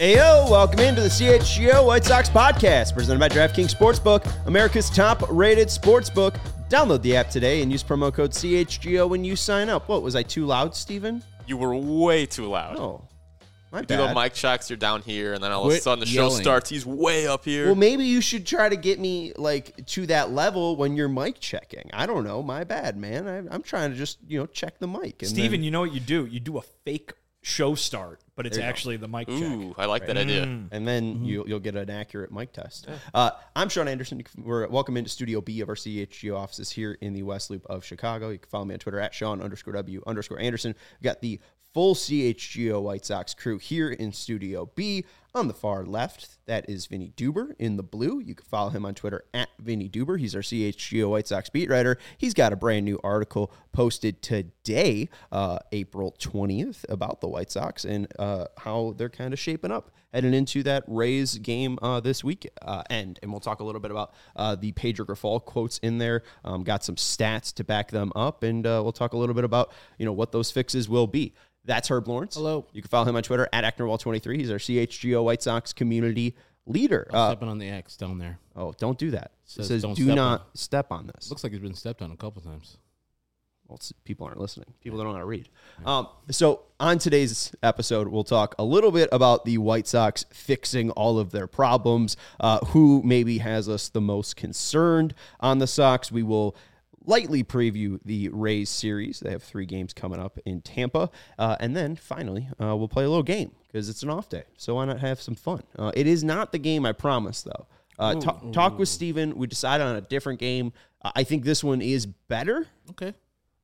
Heyo, welcome into the CHGO White Sox podcast, presented by DraftKings Sportsbook, America's top-rated sportsbook. Download the app today and use promo code CHGO when you sign up. What, was I too loud, Steven? You were way too loud. Oh, my you bad. do the mic checks, you're down here, and then all of a Quit sudden the yelling. show starts. He's way up here. Well, maybe you should try to get me to that level when you're mic checking. I don't know. My bad, man. I'm trying to just check the mic. And Steven, then, you know what you do? You do a fake show start, but it's There you actually the mic check. Ooh, I like that idea. and then you'll get an accurate mic test. I'm Sean Anderson. We're welcome into Studio B of our CHGO offices here in the West Loop of Chicago. You can follow me on Twitter at Sean_W_Anderson. We got the full CHGO White Sox crew here in Studio B. On the far left, that is Vinny Duber in the blue. You can follow him on Twitter at Vinny Duber. He's our CHGO White Sox beat writer. He's got a brand new article posted today, April 20th, about the White Sox and how they're kind of shaping up heading into that Rays game this weekend. And we'll talk a little bit about the Pedro Grifol quotes in there. Got some stats to back them up, and we'll talk a little bit about what those fixes will be. That's Herb Lawrence. Hello. You can follow him on Twitter at AcknerWall23. He's our CHGO White Sox community leader. Stepping on the X down there. Oh, don't do that. It says don't do step not on. step on this. Looks like he's been stepped on a couple times. Well, people aren't listening. People don't know how to read. So on today's episode, we'll talk a little bit about the White Sox fixing all of their problems, who maybe has us the most concerned on the Sox. We will lightly preview the Rays series. They have 3 games coming up in Tampa. And then finally, we'll play a little game because it's an off day. So why not have some fun? It is not the game I promised, though. Talk with Steven. We decided on a different game. I think this one is better. Okay.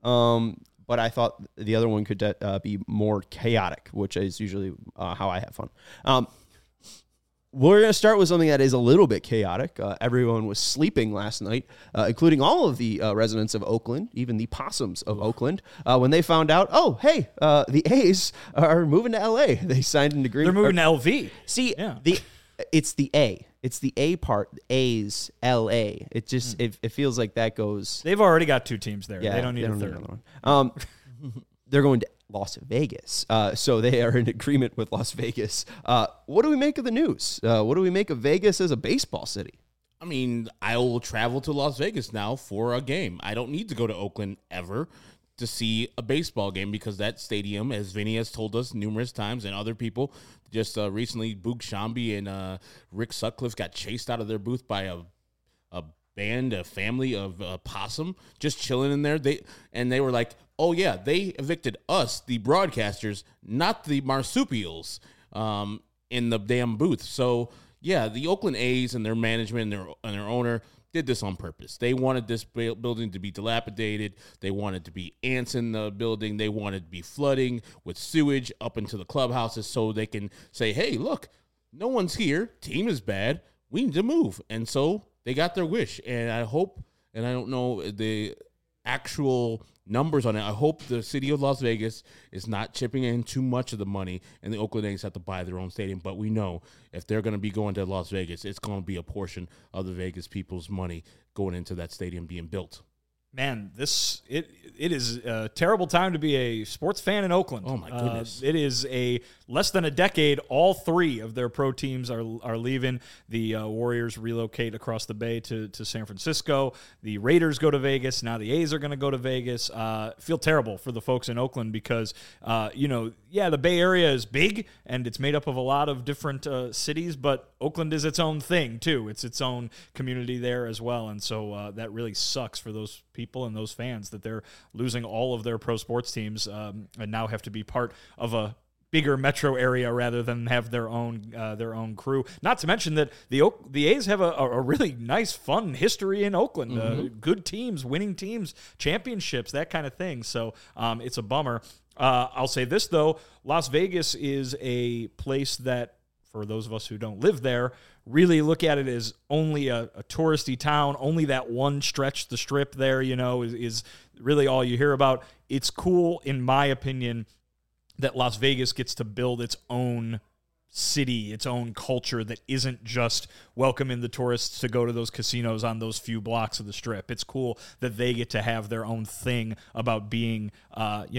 But I thought the other one could be more chaotic, which is usually how I have fun. We're going to start with something that is a little bit chaotic. Everyone was sleeping last night, including all of the residents of Oakland, even the possums of Oakland, when they found out, the A's are moving to L.A. They signed an agreement. They're moving to LV. See, Yeah. it's the A. It's the A part, A's, L.A. It just it feels like that goes. They've already got 2 teams there. Yeah, they don't need a need third. another one. They're going to Las Vegas. So they are in agreement with Las Vegas. What do we make of the news? What do we make of Vegas as a baseball city? I mean, I will travel to Las Vegas now for a game. I don't need to go to Oakland ever to see a baseball game because that stadium, as Vinny has told us numerous times and other people, just recently Boog Shambi and Rick Sutcliffe got chased out of their booth by a band, a family of possum just chilling in there. They were like, oh yeah, they evicted us, the broadcasters, not the marsupials, in the damn booth. So yeah, the Oakland A's and their management and their owner did this on purpose. They wanted this building to be dilapidated. They wanted to be ants in the building. They wanted to be flooding with sewage up into the clubhouses so they can say, hey, look, no one's here. Team is bad. We need to move. And so they got their wish. And I hope, and I don't know the actual numbers on it, I hope the city of Las Vegas is not chipping in too much of the money and the Oakland A's have to buy their own stadium. But we know if they're going to be going to Las Vegas, it's going to be a portion of the Vegas people's money going into that stadium being built. Man, it is a terrible time to be a sports fan in Oakland. Oh, my goodness. It is a less than a decade. All 3 of their pro teams are leaving. The Warriors relocate across the bay to San Francisco. The Raiders go to Vegas. Now the A's are going to go to Vegas. Feel terrible for the folks in Oakland because, the Bay Area is big and it's made up of a lot of different cities, but Oakland is its own thing, too. It's its own community there as well. And so that really sucks for those people and those fans that they're losing all of their pro sports teams and now have to be part of a bigger metro area rather than have their own crew. Not to mention that the A's have a really nice, fun history in Oakland. Good teams, winning teams, championships, that kind of thing. So it's a bummer. I'll say this, though. Las Vegas is a place that, for those of us who don't live there, really look at it as only a touristy town. Only that one stretch, the strip there, is really all you hear about. It's cool, in my opinion, that Las Vegas gets to build its own city, its own culture that isn't just welcoming the tourists to go to those casinos on those few blocks of the strip. It's cool that they get to have their own thing about being,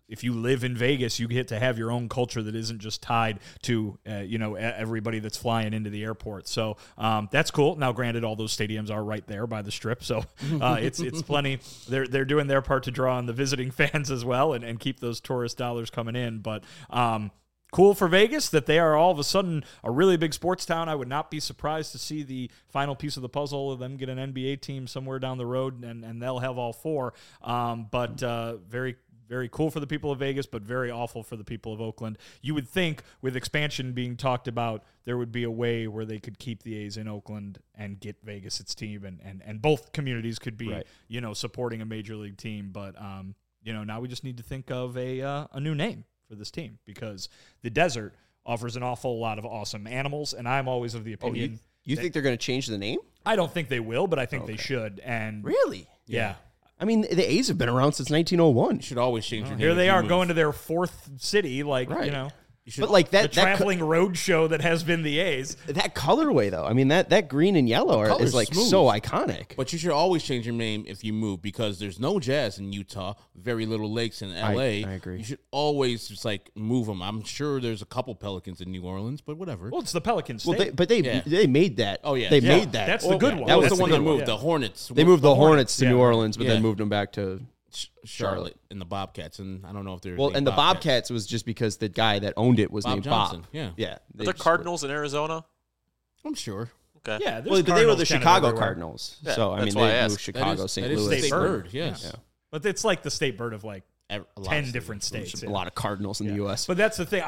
if you live in Vegas, you get to have your own culture that isn't just tied to everybody that's flying into the airport. So that's cool. Now, granted, all those stadiums are right there by the Strip, so it's plenty. They're doing their part to draw on the visiting fans as well and keep those tourist dollars coming in. But cool for Vegas that they are all of a sudden a really big sports town. I would not be surprised to see the final piece of the puzzle of them get an NBA team somewhere down the road, and they'll have all four. But very, very cool for the people of Vegas, but very awful for the people of Oakland. You would think with expansion being talked about, there would be a way where they could keep the A's in Oakland and get Vegas its team, and both communities could be, right, supporting a major league team. But, now we just need to think of a new name for this team, because the desert offers an awful lot of awesome animals, and I'm always of the opinion. You think they're going to change the name? I don't think they will, but I think they should. And really? Yeah. I mean, the A's have been around since 1901. You should always change your name. Here they are going to their fourth city, right. But like the traveling road show that has been the A's. That colorway, though, I mean, that green and yellow is like smooth. so iconic. But you should always change your name if you move, because there's no Jazz in Utah, very little lakes in L.A. I agree. You should always just move them. I'm sure there's a couple Pelicans in New Orleans, but whatever. Well, it's the Pelicans. Well, they made that. Oh yeah, they made that. That's the good one. That was That's the one that moved. Yeah. The Hornets. They moved the Hornets to yeah. New Orleans, but Yeah. then moved them back to Charlotte and the Bobcats, and I don't know if they're and the Bobcats was just because the guy that owned it was Bob named Johnson. Bob. Yeah. Yeah. Are there Cardinals in Arizona? I'm sure. Okay. Yeah, Well, but they were the Cardinals kind of Chicago everywhere. Cardinals. Yeah, So I that's mean, why I they asked. moved Chicago, St. That is Louis. state bird. bird. Yes. Yeah. But it's like the state bird of A lot 10 of different states. states. A lot of Cardinals in the U.S. But that's the thing.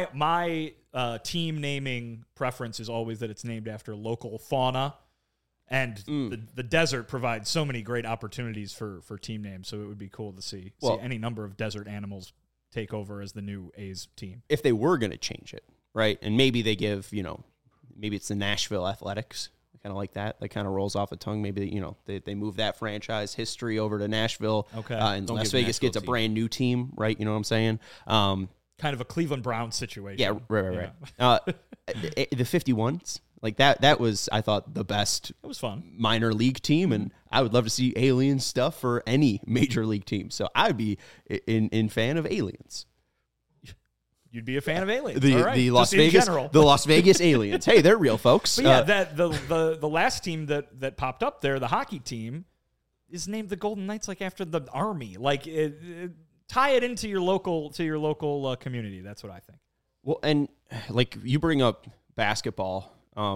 My team naming preference is always that it's named after local fauna. And the desert provides so many great opportunities for team names, so it would be cool to see any number of desert animals take over as the new A's team. If they were going to change it, right, and maybe they give, maybe it's the Nashville Athletics, kind of like that. That kind of rolls off the tongue. Maybe, they move that franchise history over to Nashville. Okay. And Las Vegas gets a brand new team, right? You know what I'm saying? Kind of a Cleveland Browns situation. Yeah, right. The 51s. Like that was, I thought, the best. It was fun. Minor league team, and I would love to see alien stuff for any major league team. So I'd be in fan of aliens. You'd be a fan of aliens. The All right. the Las Just in Vegas general. the Las Vegas aliens. Hey, they're real folks. But yeah, that the last team that popped up there, the hockey team, is named the Golden Knights, like after the Army. Like tie it into your local local community. That's what I think. Well, and like you bring up basketball.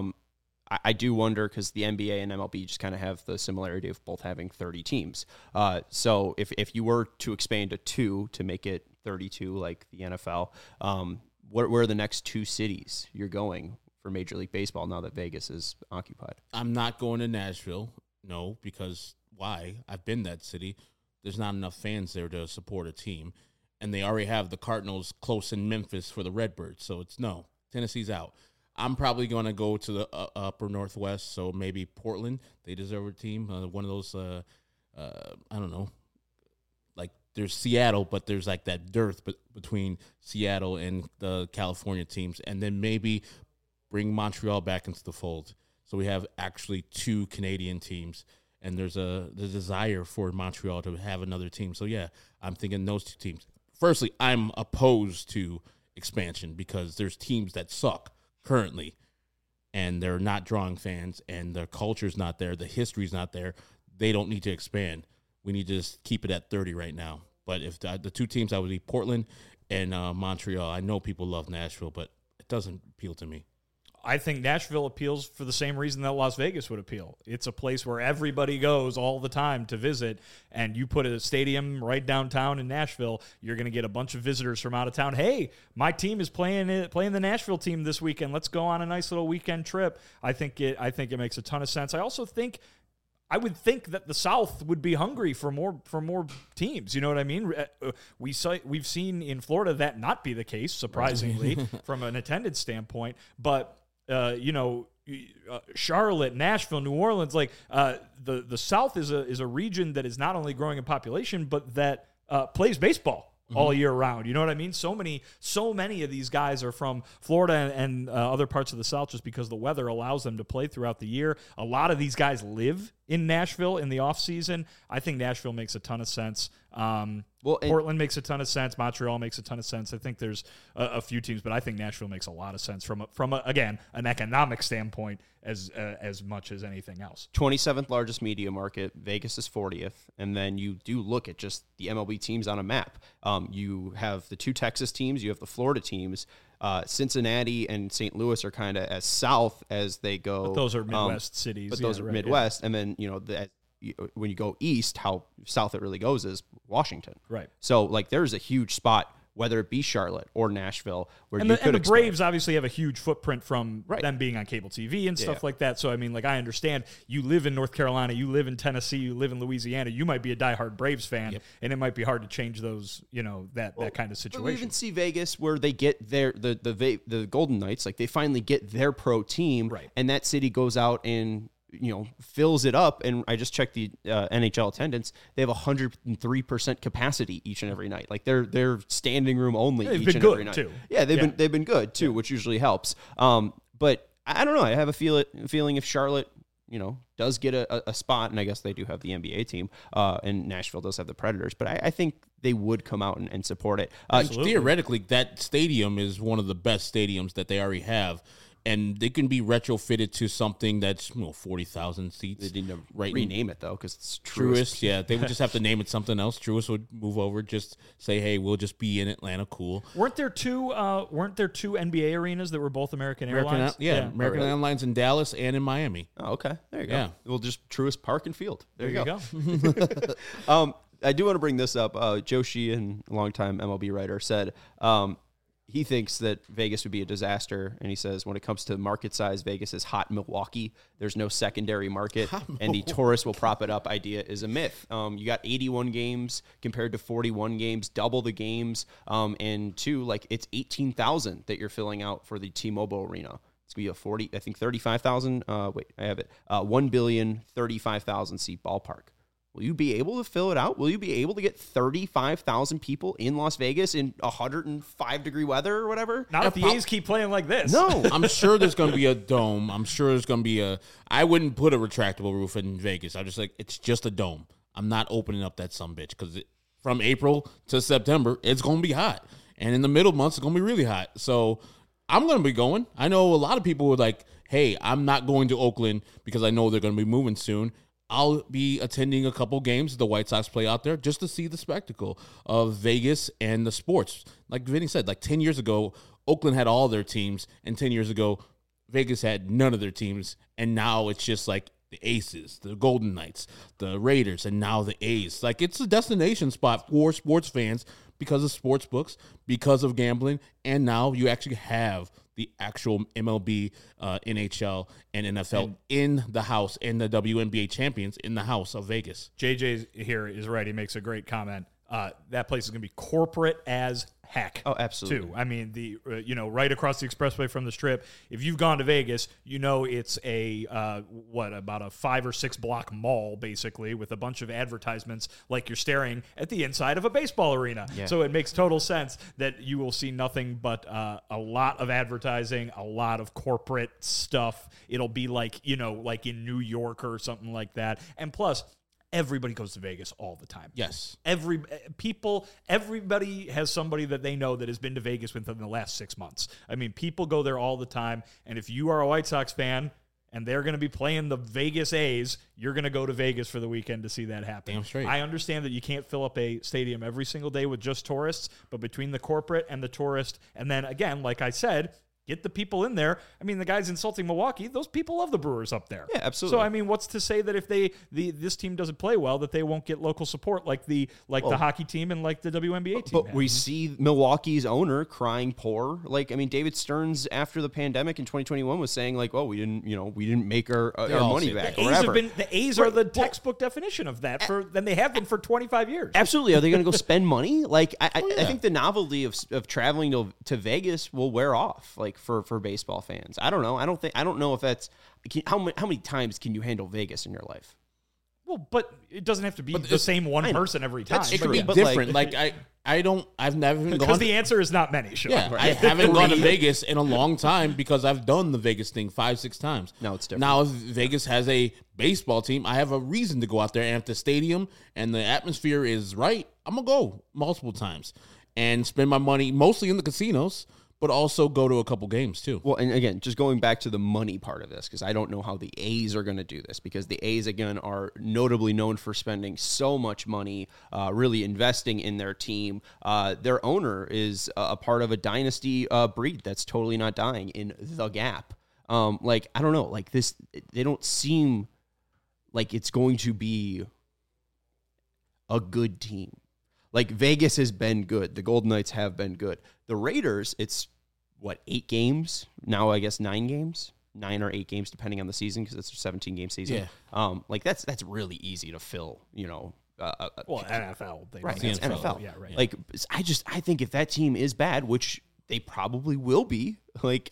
I do wonder, because the NBA and MLB just kind of have the similarity of both having 30 teams. So if you were to expand to 2 to make it 32 like the NFL, where are the next 2 cities you're going for Major League Baseball now that Vegas is occupied? I'm not going to Nashville, no, because why? I've been that city. There's not enough fans there to support a team, and they already have the Cardinals close in Memphis for the Redbirds, so it's no. Tennessee's out. I'm probably going to go to the upper Northwest, so maybe Portland. They deserve a team. One of those, I don't know, like there's Seattle, but there's like that dearth between Seattle and the California teams. And then maybe bring Montreal back into the fold. So we have actually 2 Canadian teams, and there's the desire for Montreal to have another team. So, yeah, I'm thinking those 2 teams. Firstly, I'm opposed to expansion because there's teams that suck currently, and they're not drawing fans, and their culture's not there, the history's not there. They don't need to expand. We need to just keep it at 30 right now. But if the 2 teams, I would be Portland and Montreal. I know people love Nashville, but it doesn't appeal to me. I think Nashville appeals for the same reason that Las Vegas would appeal. It's a place where everybody goes all the time to visit, and you put a stadium right downtown in Nashville, you're going to get a bunch of visitors from out of town. Hey, my team is playing the Nashville team this weekend. Let's go on a nice little weekend trip. I think it makes a ton of sense. I would think that the South would be hungry for more teams. You know what I mean? We've seen in Florida that not be the case, surprisingly, from an attendance standpoint. But Charlotte, Nashville, New Orleans, like the South is a region that is not only growing in population, but that plays baseball all year round. You know what I mean? So many of these guys are from Florida and other parts of the South just because the weather allows them to play throughout the year. A lot of these guys live in Nashville in the offseason, I think Nashville makes a ton of sense. Well, Portland makes a ton of sense. Montreal makes a ton of sense. I think there's a few teams, but I think Nashville makes a lot of sense from again an economic standpoint as much as anything else. 27th largest media market. Vegas is 40th, and then you do look at just the MLB teams on a map. You have the 2 Texas teams. You have the Florida teams. Cincinnati and St. Louis are kind of as south as they go. But those are Midwest cities. But those are Midwest, and then when you go east, how south it really goes is Washington. Right. So like there's a huge spot, whether it be Charlotte or Nashville, where and you the, could and the Braves obviously have a huge footprint from them being on cable TV and stuff like that. So I mean, like I understand you live in North Carolina, you live in Tennessee, you live in Louisiana. You might be a diehard Braves fan, and it might be hard to change those. That kind of situation. We even see Vegas where they get the Golden Knights, like they finally get their pro team, and that city goes out and fills it up. And I just checked the NHL attendance. They have 103% capacity each and every night. Like they're standing room only each and every night. Too. Yeah, they've been good too, which usually helps. But I don't know. I have a feeling if Charlotte, does get a spot, and I guess they do have the NBA team, and Nashville does have the Predators, but I think they would come out and support it. Theoretically, that stadium is one of the best stadiums that they already have. And they can be retrofitted to something that's 40,000 seats. They need to rename it, though, because it's Truist. Yeah, they would just have to name it something else. Truist would move over, just say, hey, we'll just be in Atlanta, cool. Weren't there two NBA arenas that were both American Airlines? American Airlines in Dallas and in Miami. Oh, okay. There you go. Yeah. We'll just Truist Park and Field. There you go. I do want to bring this up. Joe Sheehan, longtime MLB writer, said he thinks that Vegas would be a disaster, and he says when it comes to market size, Vegas is hot Milwaukee. There's no secondary market, and the tourists will prop it up idea is a myth. You got 81 games compared to 41 games, double the games, and it's 18,000 that you're filling out for the T-Mobile Arena. It's going to be a 35,000. Wait, I have it. 1,035,000 seat ballpark. Will you be able to fill it out? Will you be able to get 35,000 people in Las Vegas in 105-degree weather or whatever? Not if the A's keep playing like this. No. I'm sure there's going to be a dome. I'm sure there's going to be I wouldn't put a retractable roof in Vegas. I'm just like, it's just a dome. I'm not opening up that sumbitch because from April to September, it's going to be hot. And in the middle months, it's going to be really hot. So I'm going to be going. I know a lot of people were like, hey, I'm not going to Oakland because I know they're going to be moving soon. I'll be attending a couple games the White Sox play out there just to see the spectacle of Vegas and the sports. Like Vinny said, like 10 years ago, Oakland had all their teams, and 10 years ago, Vegas had none of their teams, and now it's just like the Aces, the Golden Knights, the Raiders, and now the A's. Like, it's a destination spot for sports fans because of sports books, because of gambling, and now you actually have the actual MLB, NHL, and NFL in the house, and the WNBA champions in the house of Vegas. JJ here is right. He makes a great comment. That place is going to be corporate as heck. Oh, absolutely. Too. I mean, right across the expressway from the Strip. If you've gone to Vegas, it's about a 5 or 6 block mall basically with a bunch of advertisements, like you're staring at the inside of a baseball arena. Yeah. So it makes total sense that you will see nothing but a lot of advertising, a lot of corporate stuff. It'll be like in New York or something like that. And plus, everybody goes to Vegas all the time. Yes. Everybody has somebody that they know that has been to Vegas within the last 6 months. I mean, people go there all the time. And if you are a White Sox fan and they're going to be playing the Vegas A's, you're going to go to Vegas for the weekend to see that happen. Damn straight. I understand that you can't fill up a stadium every single day with just tourists, but between the corporate and the tourist, and then again, like I said, get the people in there. I mean, the guys insulting Milwaukee, those people love the Brewers up there. Yeah, absolutely. So, I mean, what's to say that if this team doesn't play well, that they won't get local support like the hockey team and like the WNBA team? But we see Milwaukee's owner crying poor. Like, I mean, David Stearns after the pandemic in 2021 was saying like, "Oh, we didn't make our money back." The A's are the textbook definition of that. Then they have been for 25 years. Absolutely. Are they going to go spend money? Like, I think the novelty of traveling to Vegas will wear off. Like. For baseball fans. I don't know. I don't know if that's how many times can you handle Vegas in your life? Well, but it doesn't have to be the same one person every time. That's It could true. be But, different. I've never even Because gone. the answer is not many. Sure. Yeah, I haven't gone to Vegas in a long time because I've done the Vegas thing 5-6 times. No, it's different. Now, if Vegas has a baseball team, I have a reason to go out there. And if the stadium and the atmosphere is right, I'm going to go multiple times and spend my money mostly in the casinos, but also go to a couple games too. Well, and again, just going back to the money part of this, because I don't know how the A's are going to do this, because the A's, again, are notably known for spending so much money, really investing in their team. Their owner is a part of a dynasty breed that's totally not dying in the Gap. I don't know, like this, they don't seem like it's going to be a good team. Like, Vegas has been good. The Golden Knights have been good. The Raiders, it's, 8 games? Now, I guess 9 games? 9 or 8 games, depending on the season, because it's a 17-game season. Yeah. That's really easy to fill, Well, NFL. right, it's it's NFL. Yeah, right. Like, I think if that team is bad, which they probably will be, like,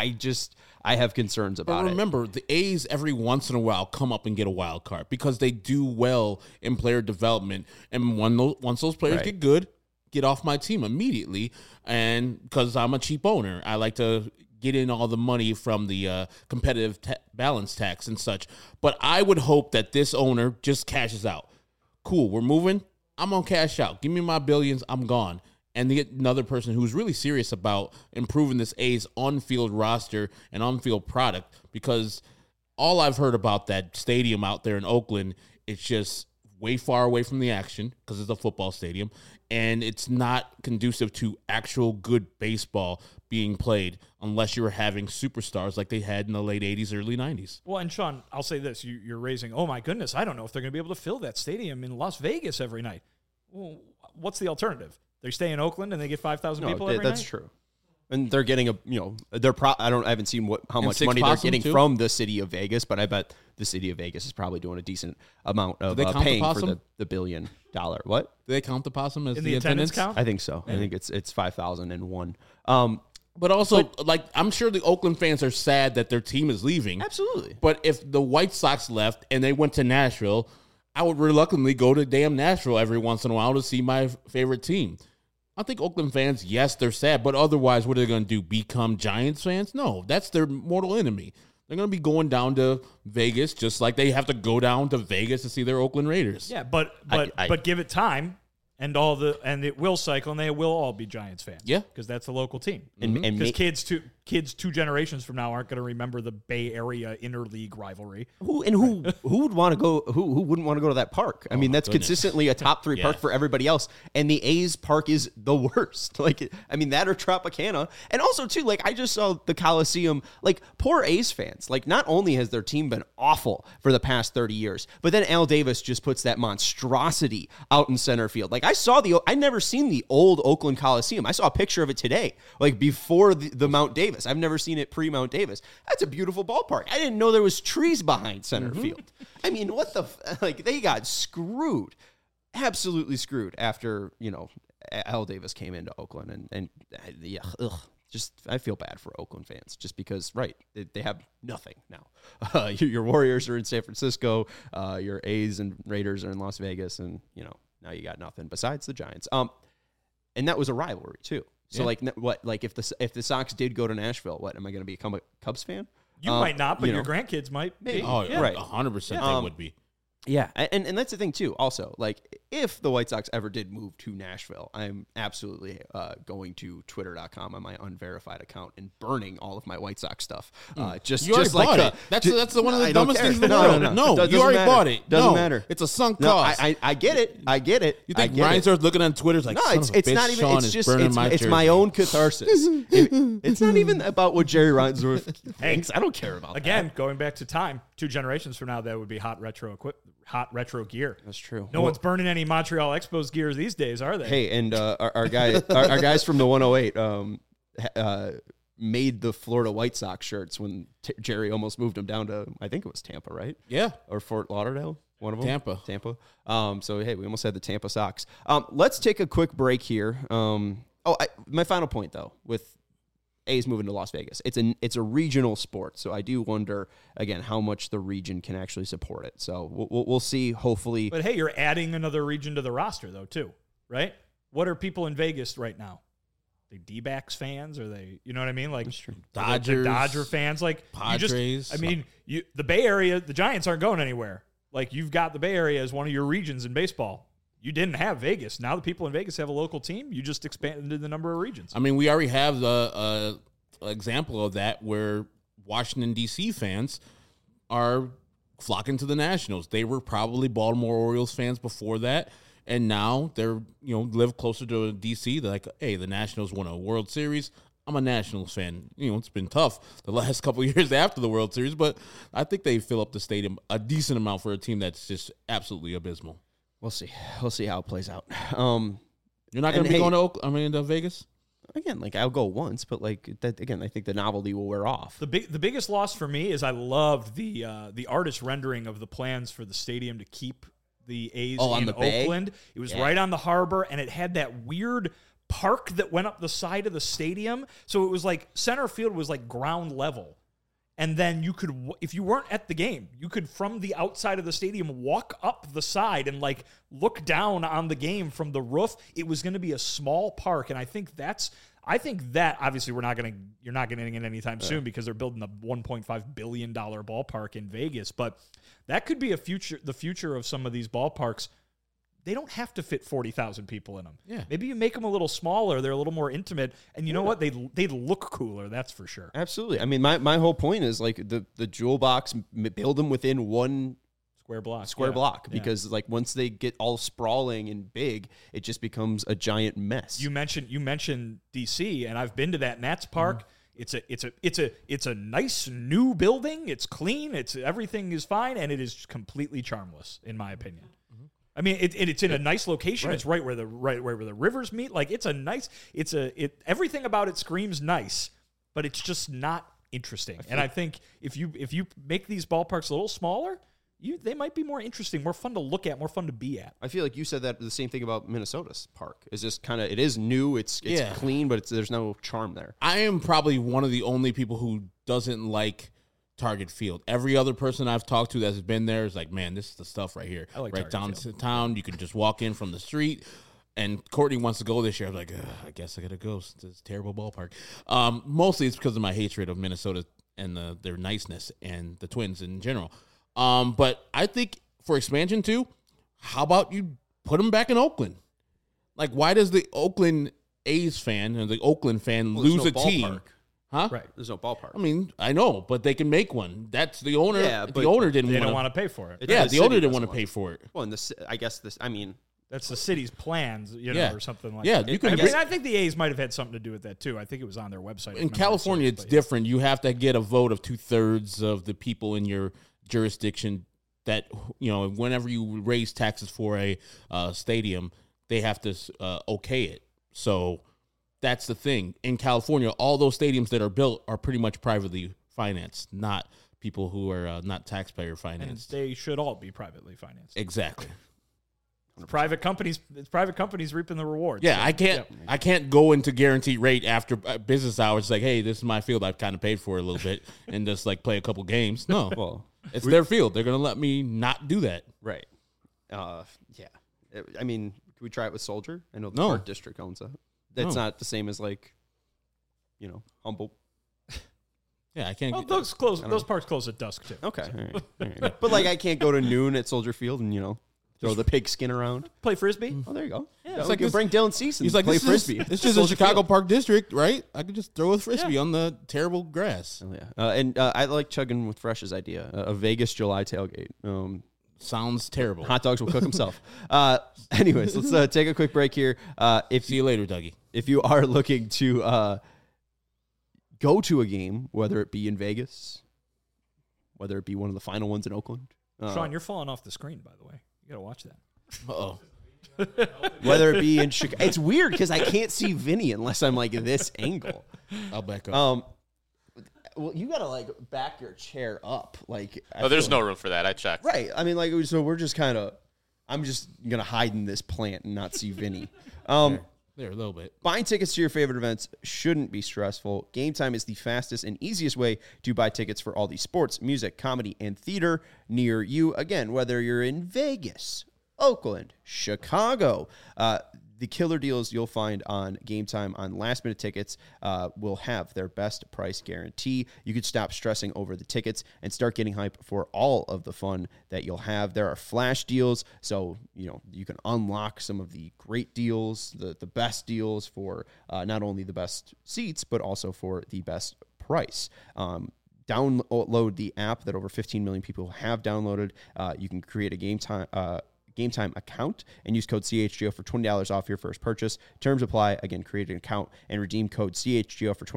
I have concerns about But remember, the A's every once in a while come up and get a wild card because they do well in player development. And once those players Right. get good, get off my team immediately. And because I'm a cheap owner, I like to get in all the money from the competitive balance tax and such. But I would hope that this owner just cashes out. Cool, we're moving. I'm going to cash out. Give me my billions. I'm gone. And they get another person who's really serious about improving this A's on-field roster and on-field product, because all I've heard about that stadium out there in Oakland, it's just way far away from the action because it's a football stadium, and it's not conducive to actual good baseball being played unless you're having superstars like they had in the late 80s, early 90s. Well, and Sean, I'll say this. You're raising, oh, my goodness, I don't know if they're going to be able to fill that stadium in Las Vegas every night. Well, what's the alternative? They stay in Oakland and they get 5,000 people every that's night? true. And they're getting I haven't seen how much Six money they're Possum, getting too? from the city of Vegas, but I bet the city of Vegas is probably doing a decent amount of they count the paying for Possum? the $1 billion. What? Do they count the possum as In the the attendance count? I think so. I think it's 5,001. But also, I'm sure the Oakland fans are sad that their team is leaving. Absolutely. But if the White Sox left and they went to Nashville, I would reluctantly go to damn Nashville every once in a while to see my favorite team. I think Oakland fans, yes, they're sad, but otherwise, what are they going to do? Become Giants fans? No, that's their mortal enemy. They're going to be going down to Vegas just like they have to go down to Vegas to see their Oakland Raiders. Yeah, but give it time, and it will cycle, and they will all be Giants fans. Yeah. because that's the local team. And Because kids 2 generations from now aren't going to remember the Bay Area interleague rivalry. who would want to go? Who wouldn't want to go to that park? I mean, that's goodness. consistently a top 3 park for everybody else, and the A's park is the worst. Like, I mean, that or Tropicana, and also too, like, I just saw the Coliseum. Like, poor A's fans. Like, not only has their team been awful for the past 30 years, but then Al Davis just puts that monstrosity out in center field. Like, I never seen the old Oakland Coliseum. I saw a picture of it today, like before the Mount Davis. I've never seen it pre-Mount Davis. That's a beautiful ballpark. I didn't know there was trees behind center field. I mean, what the they got screwed, absolutely screwed after Al Davis came into Oakland and yeah, just I feel bad for Oakland fans just because they have nothing now. Your Warriors are in San Francisco, your A's and Raiders are in Las Vegas, and now you got nothing besides the Giants. And that was a rivalry too. So if the Sox did go to Nashville, what am I going to become a Cubs fan? You might not, but your grandkids might. Maybe. Oh, Yeah. right. 100% they would be. Yeah, and that's the thing too. Also, like, if the White Sox ever did move to Nashville, I'm absolutely going to Twitter.com on my unverified account and burning all of my White Sox stuff. You already Just like bought it. That's one of the I don't dumbest care. things in the No, world. no. No, Doesn't you already matter. bought it. Doesn't No, matter. It's a sunk No, cost. I get it. I get it. You think I get Ryan it. starts looking on Twitter like, No, son it's of a bitch, not even. Sean It's is just burning it's my it's my jersey. own catharsis. It's not even about what Jerry Reinsdorf thinks. I don't care about Again, that. going back to time, 2 generations from now, that would be hot retro gear. That's true. No one's burning any Montreal Expos gears these days, are they? Hey, and our guys from the 108 made the Florida White Sox shirts when Jerry almost moved them down to, I think it was Tampa, right? Yeah. Or Fort Lauderdale, one of them. Tampa. So hey, we almost had the Tampa Sox. Let's take a quick break here. My final point though, with A's moving to Las Vegas. It's a regional sport, so I do wonder again how much the region can actually support it. So we'll see. Hopefully, But hey, you're adding another region to the roster though too, right? What are people in Vegas right now? They D-backs fans? Are they? You know what I mean? Like Dodgers, the Dodger fans. Like Padres. The Bay Area, the Giants aren't going anywhere. Like you've got the Bay Area as one of your regions in baseball. You didn't have Vegas. Now the people in Vegas have a local team. You just expanded the number of regions. I mean, we already have the example of that where Washington, D.C. fans are flocking to the Nationals. They were probably Baltimore Orioles fans before that, and now they're, live closer to D.C. They're like, hey, the Nationals won a World Series. I'm a Nationals fan. It's been tough the last couple of years after the World Series, but I think they fill up the stadium a decent amount for a team that's just absolutely abysmal. we'll see. We'll see how it plays out. You're not going to be going to Vegas? Again, like I'll go once, but like that again, I think the novelty will wear off. The biggest loss for me is I loved the artist rendering of the plans for the stadium to keep the A's in Oakland. It was right on the harbor, and it had that weird park that went up the side of the stadium. So it was like center field was like ground level. And then you could, if you weren't at the game, you could from the outside of the stadium walk up the side and like look down on the game from the roof. It was going to be a small park, and I think that obviously you're not getting it anytime soon because they're building a $1.5 billion ballpark in Vegas. But that could be the future of some of these ballparks. They don't have to fit 40,000 people in them. Yeah. Maybe you make them a little smaller. They're a little more intimate. And you know what? They look cooler. That's for sure. Absolutely. I mean, my whole point is like the jewel box, build them within one square block because like once they get all sprawling and big, it just becomes a giant mess. You mentioned DC, and I've been to that Nats Park. It's a nice new building. It's clean. Everything is fine, and it is completely charmless in my opinion. I mean, it's in a nice location. Right. It's right where the rivers meet. Like everything about it screams nice, but it's just not interesting. And I think if you make these ballparks a little smaller, they might be more interesting, more fun to look at, more fun to be at. I feel like you said that the same thing about Minnesota's park. It's just it is new, it's clean, but there's no charm there. I am probably one of the only people who doesn't like Target Field. Every other person I've talked to that's been there is like, man, this is the stuff right here. I like right Target downtown. You can just walk in from the street. And Courtney wants to go this year. I'm like, I guess I got to go. It's a terrible ballpark. Mostly it's because of my hatred of Minnesota and their niceness and the Twins in general. But I think for expansion too, how about you put them back in Oakland? Like, why does the Oakland A's fan and the Oakland fan lose a team? Huh? Right. There's no ballpark. I mean, I know, but they can make one. That's the owner. Yeah, the owner didn't want to pay for it. The owner didn't want to pay for it. Well, and that's the city's plans, or something like that. I think the A's might have had something to do with that too. I think it was on their website. In California, it's different. You have to get a vote of 2/3 of the people in your jurisdiction that, whenever you raise taxes for a stadium, they have to okay it. So that's the thing. In California, all those stadiums that are built are pretty much privately financed, not people who are not taxpayer financed. And they should all be privately financed. Exactly. It's private companies reaping the rewards. Yeah, I can't go into guaranteed rate after business hours. Like, hey, this is my field. I've kind of paid for it a little bit and just like play a couple games. No, well, it's their field. They're gonna let me not do that. Right. Yeah. I mean, can we try it with Soldier? I know the Park District owns it. That's not the same as like, Humboldt. Yeah, I can't. Well, those parks close at dusk too. Okay, all right. But like, I can't go to noon at Soldier Field and throw the pig skin around. Play Frisbee. Oh, there you go. Yeah, it's like you bring Dylan Cease and play Frisbee. It's just a Chicago Park District, right? I could just throw a Frisbee on the terrible grass. Oh, yeah. And I like chugging with Fresh's idea, a Vegas July tailgate. Sounds terrible. Hot dogs will cook himself. Anyways, let's take a quick break here. See you later, Dougie. If you are looking to go to a game, whether it be in Vegas, whether it be one of the final ones in Oakland. Sean, you're falling off the screen, by the way. You got to watch that. Uh-oh. Whether it be in Chicago. It's weird because I can't see Vinny unless I'm like this angle. I'll back up. Well, you got to like back your chair up. Like, there's no room for that. I checked. Right. I mean, so we're just I'm just going to hide in this plant and not see Vinny. There, a little bit. Buying tickets to your favorite events shouldn't be stressful. Game Time is the fastest and easiest way to buy tickets for all the sports, music, comedy, and theater near you. Again, whether you're in Vegas, Oakland, Chicago, the killer deals you'll find on Game Time on last-minute tickets will have their best price guarantee. You could stop stressing over the tickets and start getting hype for all of the fun that you'll have. There are flash deals, so you can unlock some of the great deals, the best deals for not only the best seats, but also for the best price. Download the app that over 15 million people have downloaded. You can create a Game Time account and use code CHGO for $20 off your first purchase. Terms apply. Again, create an account and redeem code CHGO for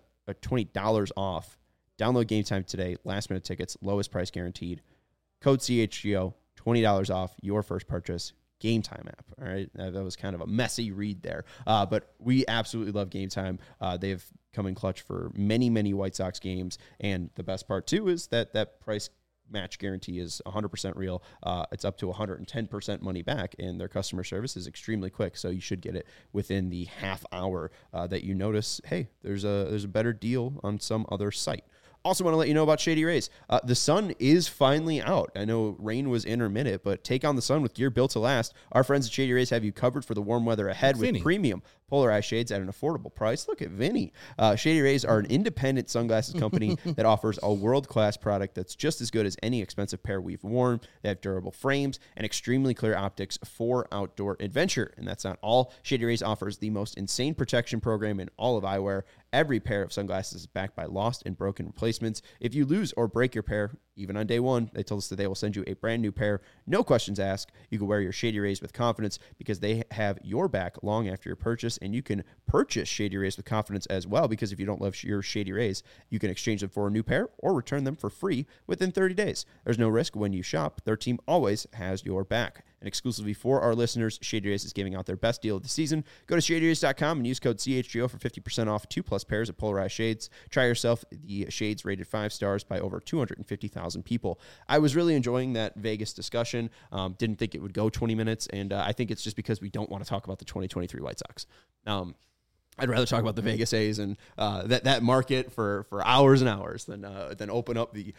$20 off. Download Game Time today. Last minute tickets, lowest price guaranteed. Code CHGO, $20 off your first purchase. Game Time app. All right, that was kind of a messy read there, but we absolutely love Game Time. They've come in clutch for many, many White Sox games, and the best part too is that price match guarantee is 100% real. It's up to 110% money back, and their customer service is extremely quick. So you should get it within the half hour that you notice, hey, there's a better deal on some other site. Also want to let you know about Shady Rays. The sun is finally out. I know rain was intermittent, but take on the sun with gear built to last. Our friends at Shady Rays have you covered for the warm weather ahead with premium polarized shades at an affordable price. Look at Vinny. Shady Rays are an independent sunglasses company that offers a world-class product that's just as good as any expensive pair we've worn. They have durable frames and extremely clear optics for outdoor adventure. And that's not all. Shady Rays offers the most insane protection program in all of eyewear. Every pair of sunglasses is backed by lost and broken replacements. If you lose or break your pair, even on day one, they told us that they will send you a brand new pair. No questions asked. You can wear your Shady Rays with confidence because they have your back long after your purchase, and you can purchase Shady Rays with confidence as well because if you don't love your Shady Rays, you can exchange them for a new pair or return them for free within 30 days. There's no risk when you shop. Their team always has your back. And exclusively for our listeners, Shady Rays is giving out their best deal of the season. Go to shadyrays.com and use code CHGO for 50% off 2+ pairs of polarized shades. Try yourself the shades rated 5 stars by over 250,000 people. I was really enjoying that Vegas discussion. Didn't think it would go 20 minutes, and I think it's just because we don't want to talk about the 2023 White Sox. I'd rather talk about the Vegas A's and that market for hours and hours than open up the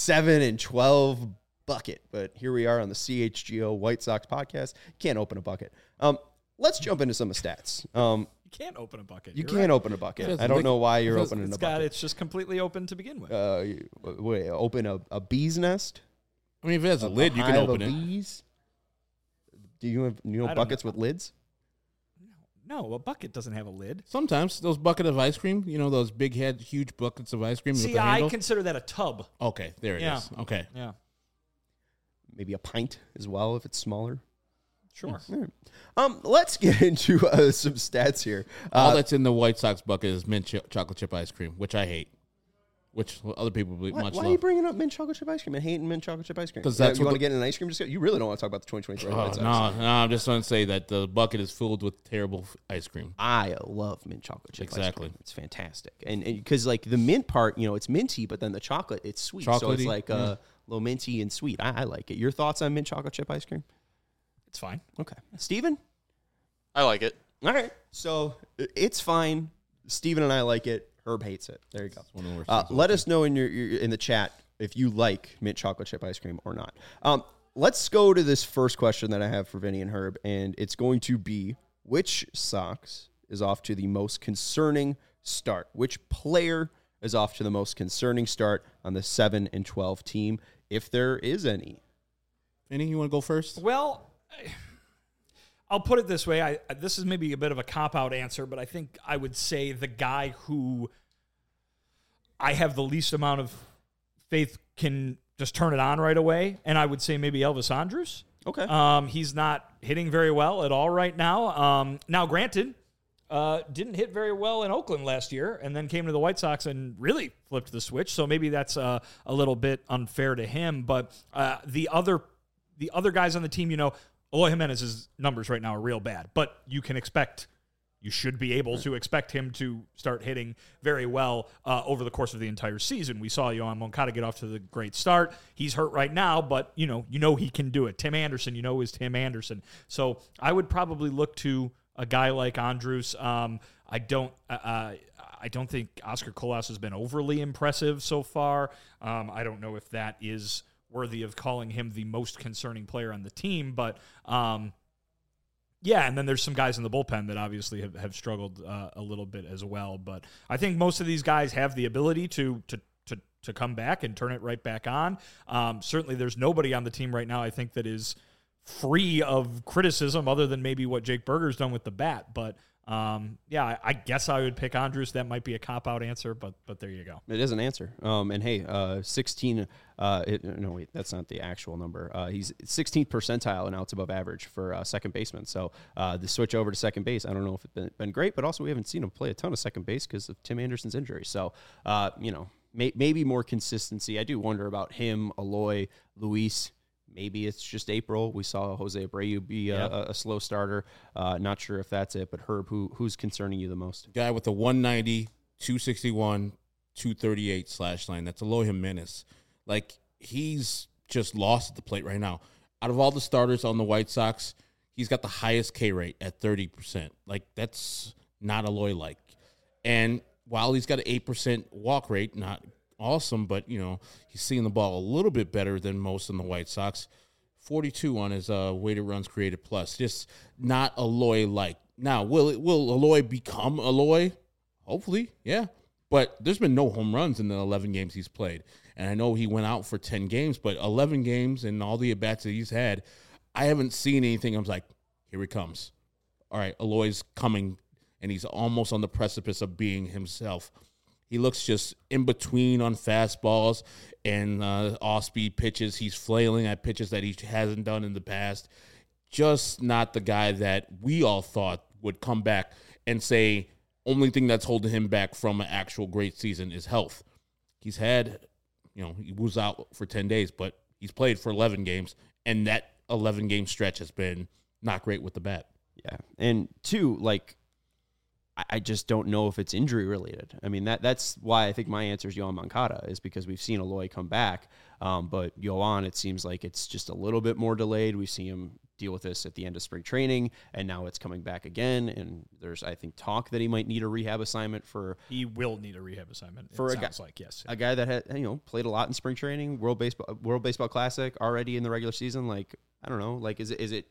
7-12 bucket. But here we are on the CHGO White Sox podcast. Can't open a bucket. Let's jump into some of the stats. You can't open a bucket. You can't open a bucket. I don't know why you're opening a bucket. It's just completely open to begin with. Wait, open a bee's nest? I mean, if it has a lid, you can open it. Bees? Do you know buckets with lids? No, a bucket doesn't have a lid. Sometimes those bucket of ice cream, those big head, huge buckets of ice cream. See, with the I handle. Consider that a tub. Okay, there it is. Okay. Yeah. Maybe a pint as well if it's smaller. Sure. Let's get into some stats here. All that's in the White Sox bucket is mint chocolate chip ice cream, which I hate. Which other people much love. Why are you bringing up mint chocolate chip ice cream and hating mint chocolate chip ice cream? Because that's you want to get in an ice cream discussion? You really don't want to talk about the 2023 White Sox. No, I'm just going to say that the bucket is filled with terrible ice cream. I love mint chocolate chip ice cream. Exactly. It's fantastic. And because like the mint part, it's minty, but then the chocolate, it's sweet. Chocolatey, so it's like a little minty and sweet. I like it. Your thoughts on mint chocolate chip ice cream? It's fine. Okay. Steven? I like it. All right. So it's fine. Steven and I like it. Herb hates it. There you go. Let us know in your in the chat if you like mint chocolate chip ice cream or not. Let's go to this first question that I have for Vinny and Herb, and it's going to be, which Sox is off to the most concerning start? Which player is off to the most concerning start on the 7-12 team, if there is any? Vinny, you want to go first? Well, I'll put it this way. This is maybe a bit of a cop-out answer, but I think I would say the guy who I have the least amount of faith can just turn it on right away, and I would say maybe Elvis Andrus. Okay. He's not hitting very well at all right now. Now, granted, didn't hit very well in Oakland last year and then came to the White Sox and really flipped the switch, so maybe that's a little bit unfair to him. But the other guys on the team, Eloy Jimenez's numbers right now are real bad, but you should be able to expect him to start hitting very well over the course of the entire season. We saw Yohan Moncada get off to the great start. He's hurt right now, but you know he can do it. Tim Anderson, is Tim Anderson. So I would probably look to a guy like Andrus. I don't think Oscar Colas has been overly impressive so far. I don't know if that is worthy of calling him the most concerning player on the team, but yeah, and then there's some guys in the bullpen that obviously have struggled a little bit as well. But I think most of these guys have the ability to come back and turn it right back on. Certainly there's nobody on the team right now, I think, that is free of criticism other than maybe what Jake Berger's done with the bat. But yeah, I guess I would pick Andrus. That might be a cop-out answer, but there you go. It is an answer. And hey, 16. No, wait, that's not the actual number. He's 16th percentile and outs above average for second baseman. So the switch over to second base, I don't know if it's been great, but also we haven't seen him play a ton of second base because of Tim Anderson's injury. So maybe more consistency. I do wonder about him, Eloy, Luis. Maybe it's just April. We saw Jose Abreu be a slow starter. Not sure if that's it, but Herb, who's concerning you the most? Guy with the 190, 261, 238 slash line. That's Eloy Jimenez. Like, he's just lost at the plate right now. Out of all the starters on the White Sox, he's got the highest K rate at 30%. Like, that's not Eloy-like. And while he's got an 8% walk rate, not awesome, but, he's seeing the ball a little bit better than most in the White Sox. 42 on his weighted runs created plus. Just not Eloy-like. Now, will Eloy become Eloy? Hopefully, yeah. But there's been no home runs in the 11 games he's played. And I know he went out for 10 games, but 11 games and all the at-bats that he's had, I haven't seen anything. I was like, here he comes. All right, Eloy's coming, and he's almost on the precipice of being himself. He looks just in between on fastballs and off-speed pitches. He's flailing at pitches that he hasn't done in the past. Just not the guy that we all thought would come back and say, only thing that's holding him back from an actual great season is health. He's had, he was out for 10 days, but he's played for 11 games, and that 11-game stretch has been not great with the bat. Yeah, and two, I just don't know if it's injury related. I mean, that's why I think my answer is Yoan Moncada, is because we've seen Eloy come back. But Yoan, it seems like it's just a little bit more delayed. We see him deal with this at the end of spring training, and now it's coming back again. And there's, I think, talk that he might need a rehab assignment for. He will need a rehab assignment. For it sounds like, yes. A guy that had, played a lot in spring training, World Baseball Classic, already in the regular season. I don't know. Is it?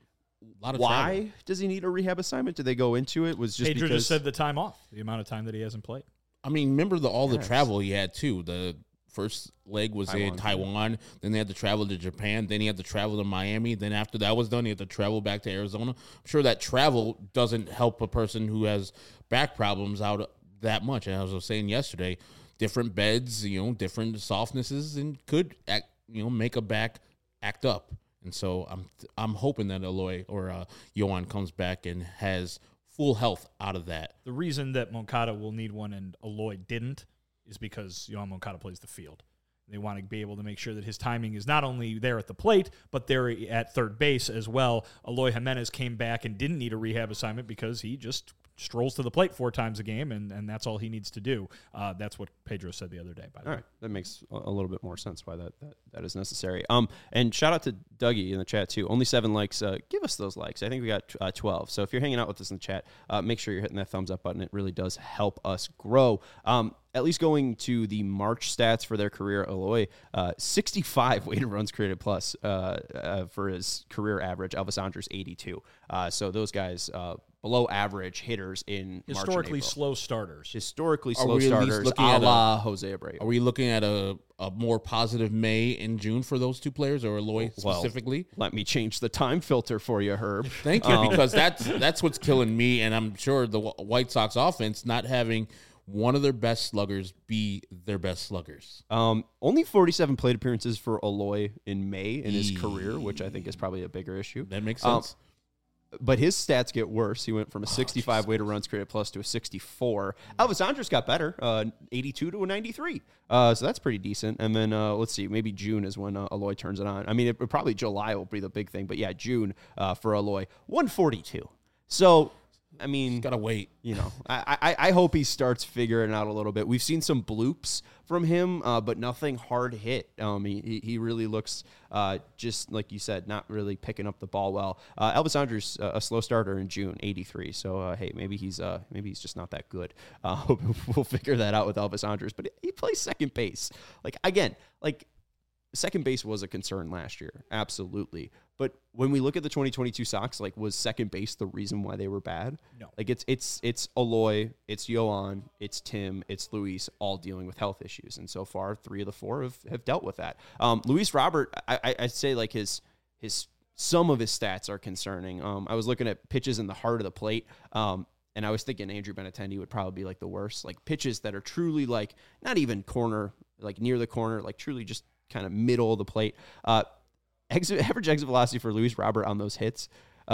Why travel. Does he need a rehab assignment? Did they go into it? Was just Pedro because just said the time off, the amount of time that he hasn't played. I mean, remember all the travel he had too. The first leg was in Taiwan. Then they had to travel to Japan. Then he had to travel to Miami. Then after that was done, he had to travel back to Arizona. I'm sure that travel doesn't help a person who has back problems out that much. And as I was saying yesterday, different beds, different softnesses, and could make a back act up. And so I'm hoping that Eloy or Yoan comes back and has full health out of that. The reason that Moncada will need one and Eloy didn't is because Yoan Moncada plays the field. They want to be able to make sure that his timing is not only there at the plate, but there at third base as well. Eloy Jimenez came back and didn't need a rehab assignment because he just strolls to the plate 4 times a game, and that's all he needs to do. That's what Pedro said the other day, by the way. All right. That makes a little bit more sense why that is necessary. And shout out to Dougie in the chat, too. Only 7 likes. Give us those likes. I think we got 12. So if you're hanging out with us in the chat, make sure you're hitting that thumbs up button. It really does help us grow. At least going to the March stats for their career, Eloy, 65 weighted runs created plus for his career average. Elvis Andrus, 82. So those guys below average hitters in historically March and slow starters. Historically slow starters, a la Jose Abreu. Are we looking at a more positive May and June for those two players, or Eloy specifically? Let me change the time filter for you, Herb. Thank you, because that's what's killing me, and I'm sure the White Sox offense not having one of their best sluggers be their best sluggers. Only 47 plate appearances for Eloy in May in his career, which I think is probably a bigger issue. That makes sense. But his stats get worse. He went from a 65 weighted runs created plus to a 64. Elvis Andrus got better, 82 to a 93. So that's pretty decent. And then let's see, maybe June is when Eloy turns it on. I mean, probably July will be the big thing. But yeah, June for Eloy, 142. So I mean, Gotta wait. you know, I hope he starts figuring it out a little bit. We've seen some bloops from him, but nothing hard hit. He really looks just like you said, not really picking up the ball well. Elvis Andrus, a slow starter in June, 83. So hey, maybe he's just not that good. We'll figure that out with Elvis Andrus, but he plays second base. Second base was a concern last year, absolutely. But when we look at the 2022 Sox, was second base the reason why they were bad? No. It's Eloy, it's Yohan, it's Tim, it's Luis, all dealing with health issues, and so far 3 of the 4 have dealt with that. Luis Robert, I'd say his some of his stats are concerning. I was looking at pitches in the heart of the plate. And I was thinking Andrew Benintendi would probably be the worst, pitches that are truly not even corner, near the corner, truly just kind of middle of the plate. Average exit velocity for Luis Robert on those hits,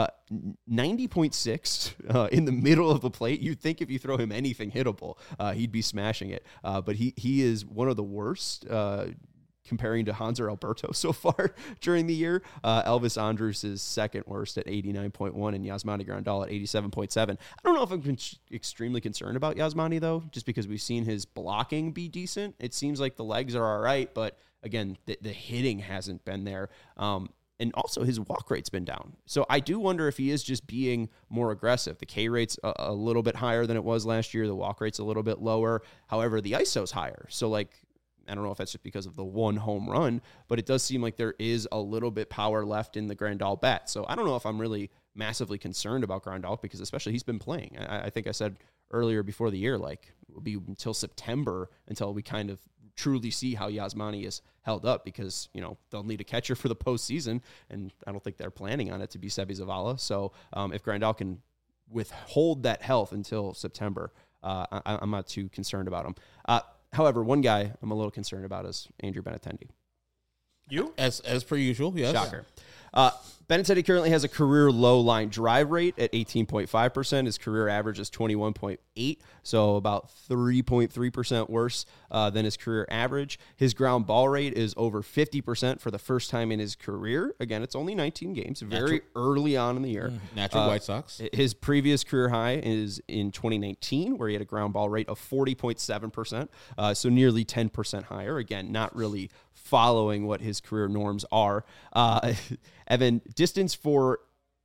90.6 in the middle of the plate. You'd think if you throw him anything hittable, he'd be smashing it. But he is one of the worst comparing to Hanser Alberto so far during the year. Elvis Andrus is second worst at 89.1 and Yasmani Grandal at 87.7. I don't know if I'm extremely concerned about Yasmani, though, just because we've seen his blocking be decent. It seems like the legs are all right, but again, the hitting hasn't been there. And also his walk rate's been down. So I do wonder if he is just being more aggressive. The K rate's a little bit higher than it was last year. The walk rate's a little bit lower. However, the ISO's higher. So I don't know if that's just because of the one home run, but it does seem like there is a little bit power left in the Grandal bat. So I don't know if I'm really massively concerned about Grandal because especially he's been playing. I think I said earlier before the year, it'll be until September until we kind of truly see how Yasmani is held up because, they'll need a catcher for the postseason, and I don't think they're planning on it to be Seby Zavala. So if Grandal can withhold that health until September, I'm not too concerned about him. However, one guy I'm a little concerned about is Andrew Benintendi. You? As per usual, yes. Shocker. Benintendi currently has a career low line drive rate at 18.5%. His career average is 21.8, so about 3.3% worse than his career average. His ground ball rate is over 50% for the first time in his career. Again, it's only 19 games, very early on in the year. Natural White Sox. His previous career high is in 2019, where he had a ground ball rate of 40.7%, so nearly 10% higher. Again, not really following what his career norms are. Evan, distance for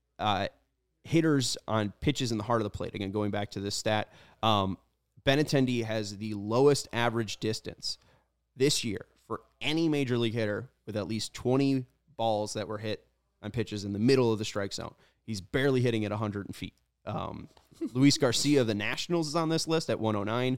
hitters on pitches in the heart of the plate. Again, going back to this stat, Benintendi has the lowest average distance this year for any major league hitter with at least 20 balls that were hit on pitches in the middle of the strike zone. He's barely hitting at 100 feet. Luis Garcia of the Nationals is on this list at 109.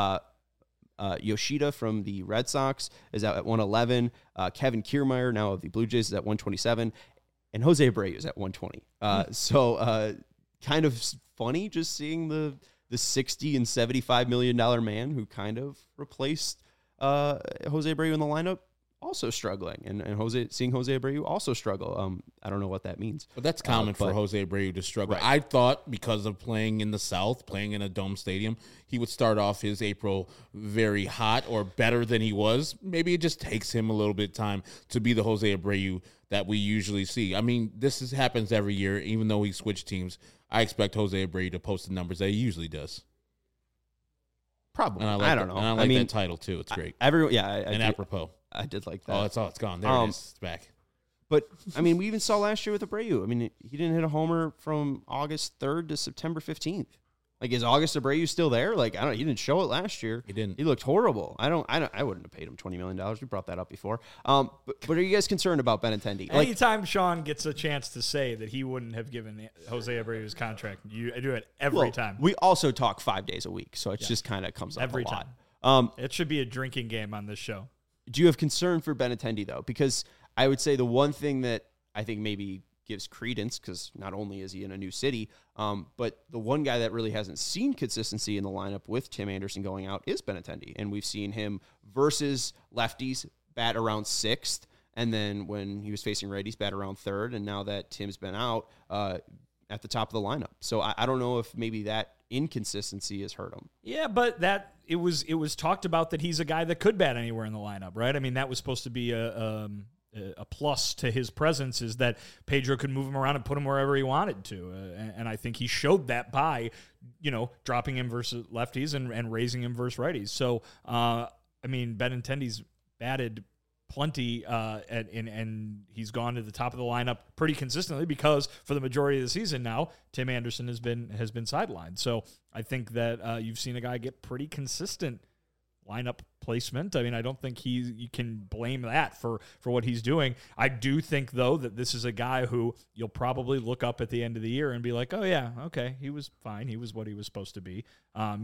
Yoshida from the Red Sox is out at 111. Kevin Kiermaier, now of the Blue Jays, is at 127. And Jose Abreu is at 120. So kind of funny just seeing the $60 and $75 million man who kind of replaced Jose Abreu in the lineup also struggling, and seeing Jose Abreu also struggle. I don't know what that means. But that's common for Jose Abreu to struggle. Right. I thought because of playing in the South, playing in a dome stadium, he would start off his April very hot or better than he was. Maybe it just takes him a little bit of time to be the Jose Abreu that we usually see. I mean, happens every year. Even though he switched teams, I expect Jose Abreu to post the numbers that he usually does. Probably. I don't know. And I like that title, too. It's great. Everyone, and apropos. I did like that. Oh, it's gone. There it is. It's back. But, we even saw last year with Abreu. He didn't hit a homer from August 3rd to September 15th. Is August Abreu still there? He didn't show it last year. He didn't. He looked horrible. I wouldn't have paid him $20 million. We brought that up before. But are you guys concerned about Benintendi? Anytime Sean gets a chance to say that he wouldn't have given Jose Abreu his contract, I do it every time. We also talk 5 days a week, so it just kind of comes up every a lot. time. It should be a drinking game on this show. Do you have concern for Benintendi, though? Because I would say the one thing that I think maybe gives credence, because not only is he in a new city, but the one guy that really hasn't seen consistency in the lineup with Tim Anderson going out is Benintendi. And we've seen him versus lefties bat around 6th, and then when he was facing righties, bat around 3rd, and now that Tim's been out, at the top of the lineup. So I don't know if maybe that inconsistency has hurt him. Yeah, but it was talked about that he's a guy that could bat anywhere in the lineup, right? That was supposed to be a a plus to his presence is that Pedro could move him around and put him wherever he wanted to. And I think he showed that by, dropping him versus lefties and raising him versus righties. So, Benintendi's batted plenty, and he's gone to the top of the lineup pretty consistently because for the majority of the season now, Tim Anderson has been sidelined. So I think that you've seen a guy get pretty consistent lineup placement. I don't think you can blame that for what he's doing. I do think, though, that this is a guy who you'll probably look up at the end of the year and be like, oh, yeah, okay, he was fine. He was what he was supposed to be. I'm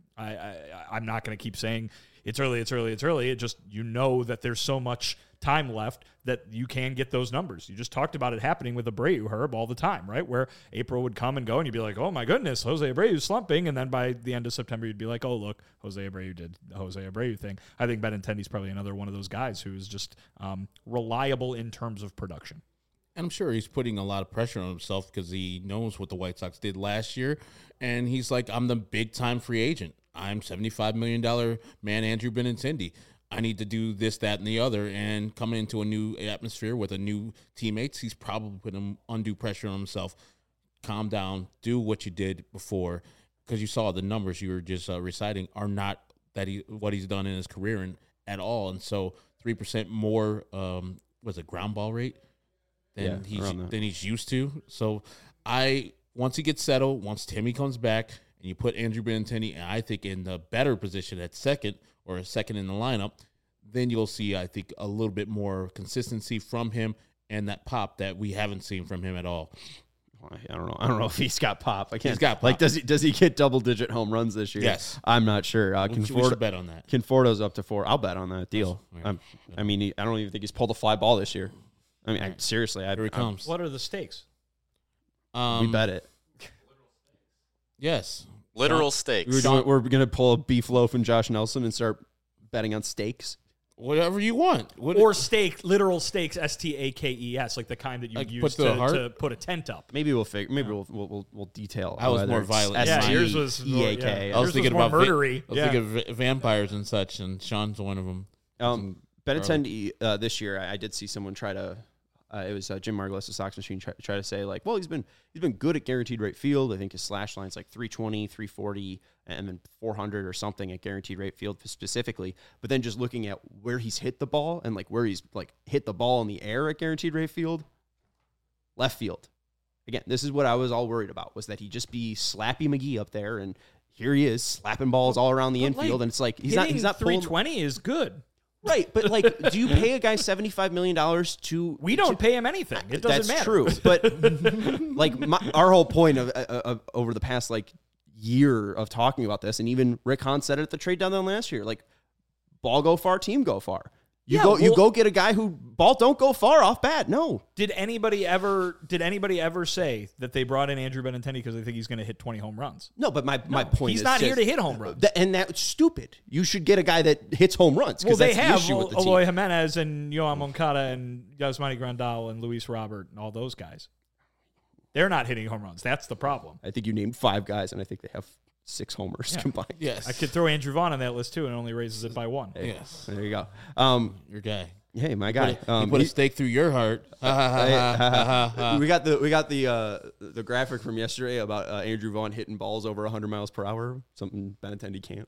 not going to keep saying it's early. It just, that there's so much time left that you can get those numbers. You just talked about it happening with Abreu, Herb, all the time, right? Where April would come and go and you'd be like, oh my goodness, Jose Abreu's slumping. And then by the end of September, you'd be like, oh, look, Jose Abreu did the Jose Abreu thing. I think Benintendi's probably another one of those guys who is just reliable in terms of production. And I'm sure he's putting a lot of pressure on himself because he knows what the White Sox did last year. And he's like, I'm the big-time free agent. I'm $75 million man, Andrew Benintendi. I need to do this, that, and the other. And coming into a new atmosphere with a new teammates, he's probably putting undue pressure on himself. Calm down. Do what you did before. Because you saw the numbers you were just reciting are not what he's done in his career at all. And so 3% more, ground ball rate than he's used to. So once he gets settled, once Timmy comes back, and you put Andrew Benintendi, and I think in the better position at second or second in the lineup, then you'll see, I think, a little bit more consistency from him and that pop that we haven't seen from him at all. I don't know if he's got pop. He's got pop. Like, does he get double-digit home runs this year? Yes. I'm not sure. We should bet on that. Conforto's up to 4. I'll bet on that deal. Yeah. I don't even think he's pulled a fly ball this year. Seriously. Here he comes. What are the stakes? We bet it. Yes. Literal stakes. We're going to pull a beef loaf and Josh Nelson and start betting on steaks. Whatever you want. Or steak, literal stakes, STAKES, like the kind that you use to put a tent up. Maybe we'll figure. Maybe we'll detail. I was more violent. Yours was EAK. I was thinking about murdery. I was thinking of vampires and such, and Sean's one of them. Benintendi this year, I did see someone try to. It was Jim Margulis, the Sox Machine, try to say, like, well, he's been good at guaranteed rate field. I think his slash line's like 320, 340, and then 400 or something at guaranteed rate field specifically. But then just looking at where he's hit the ball and like where he's like hit the ball in the air at guaranteed rate field, left field. Again, this is what I was all worried about, was that he just be Slappy McGee up there, and here he is slapping balls all around the infield, and it's like he's not 320 is good. Right, but like, do you pay a guy $75 million to? We don't pay him anything. It doesn't matter. That's true, but like our whole point of over the past like year of talking about this, and even Rick Hahn said it at the trade deadline last year, like, ball go far, team go far. You go get a guy who ball don't go far off bat. No. Did anybody ever say that they brought in Andrew Benintendi because they think he's going to hit 20 home runs? No, but my point is he's not here to hit home runs. And that's stupid. You should get a guy that hits home runs. Well, they that's have the issue with the Eloy team. Jimenez and Yohan Moncada and Yasmani Grandal and Luis Robert and all those guys. They're not hitting home runs. That's the problem. I think you named 5 guys, and I think they have 6 homers combined. Yes. I could throw Andrew Vaughn on that list too, and it only raises it by 1. Hey, yes. There you go. Your guy. Hey, my guy. He put a stake through your heart. We got the graphic from yesterday about Andrew Vaughn hitting balls over 100 miles per hour, something Benintendi can't.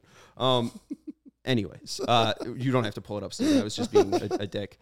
Anyways, you don't have to pull it up, Steve. I was just being a dick.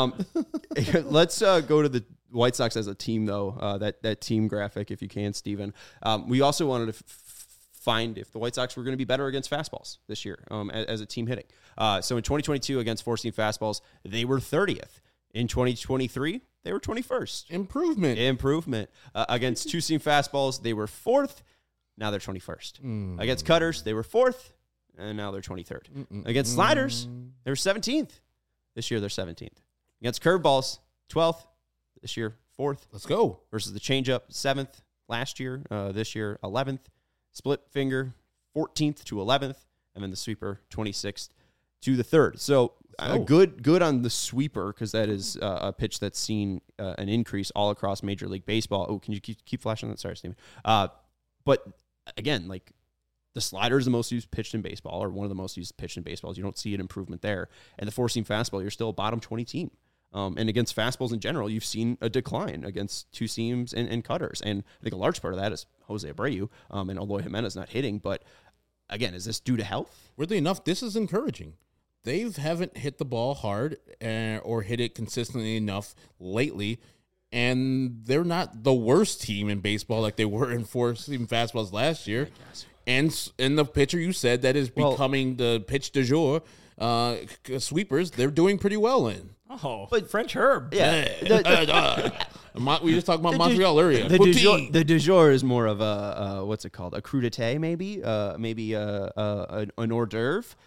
Let's go to the White Sox as a team, though. That team graphic, if you can, Steven. We also wanted to find if the White Sox were going to be better against fastballs this year as a team hitting. So in 2022, against four-seam fastballs, they were 30th. In 2023, they were 21st. Improvement. Against two-seam fastballs, they were 4th. Now they're 21st. Against cutters, they were 4th. And now they're 23rd. Against sliders, they were 17th. This year, they're 17th. Against curveballs, 12th. This year, 4th. Let's go. Versus the changeup, 7th last year. This year, 11th. Split finger, 14th to 11th. And then the sweeper, 26th to the 3rd. So good on the sweeper, because that is a pitch that's seen an increase all across Major League Baseball. Oh, can you keep flashing that? Sorry, Steven. But again, like, the slider is the most used pitch in baseball, or one of the most used pitch in baseball. You don't see an improvement there. And the four-seam fastball, you're still a bottom 20 team. And against fastballs in general, you've seen a decline against two seams and cutters. And I think a large part of that is Jose Abreu and Eloy Jimenez not hitting. But again, is this due to health? Weirdly enough, this is encouraging. They haven't hit the ball hard or hit it consistently enough lately, and they're not the worst team in baseball like they were in four-seam fastballs last year. And in the pitcher you said that is becoming the pitch du jour, sweepers, they're doing pretty well in. Oh, but French Herb. Yeah. We just talked about Montreal earlier. The du jour is more of what's it called? A crudité, maybe? Maybe an hors d'oeuvre.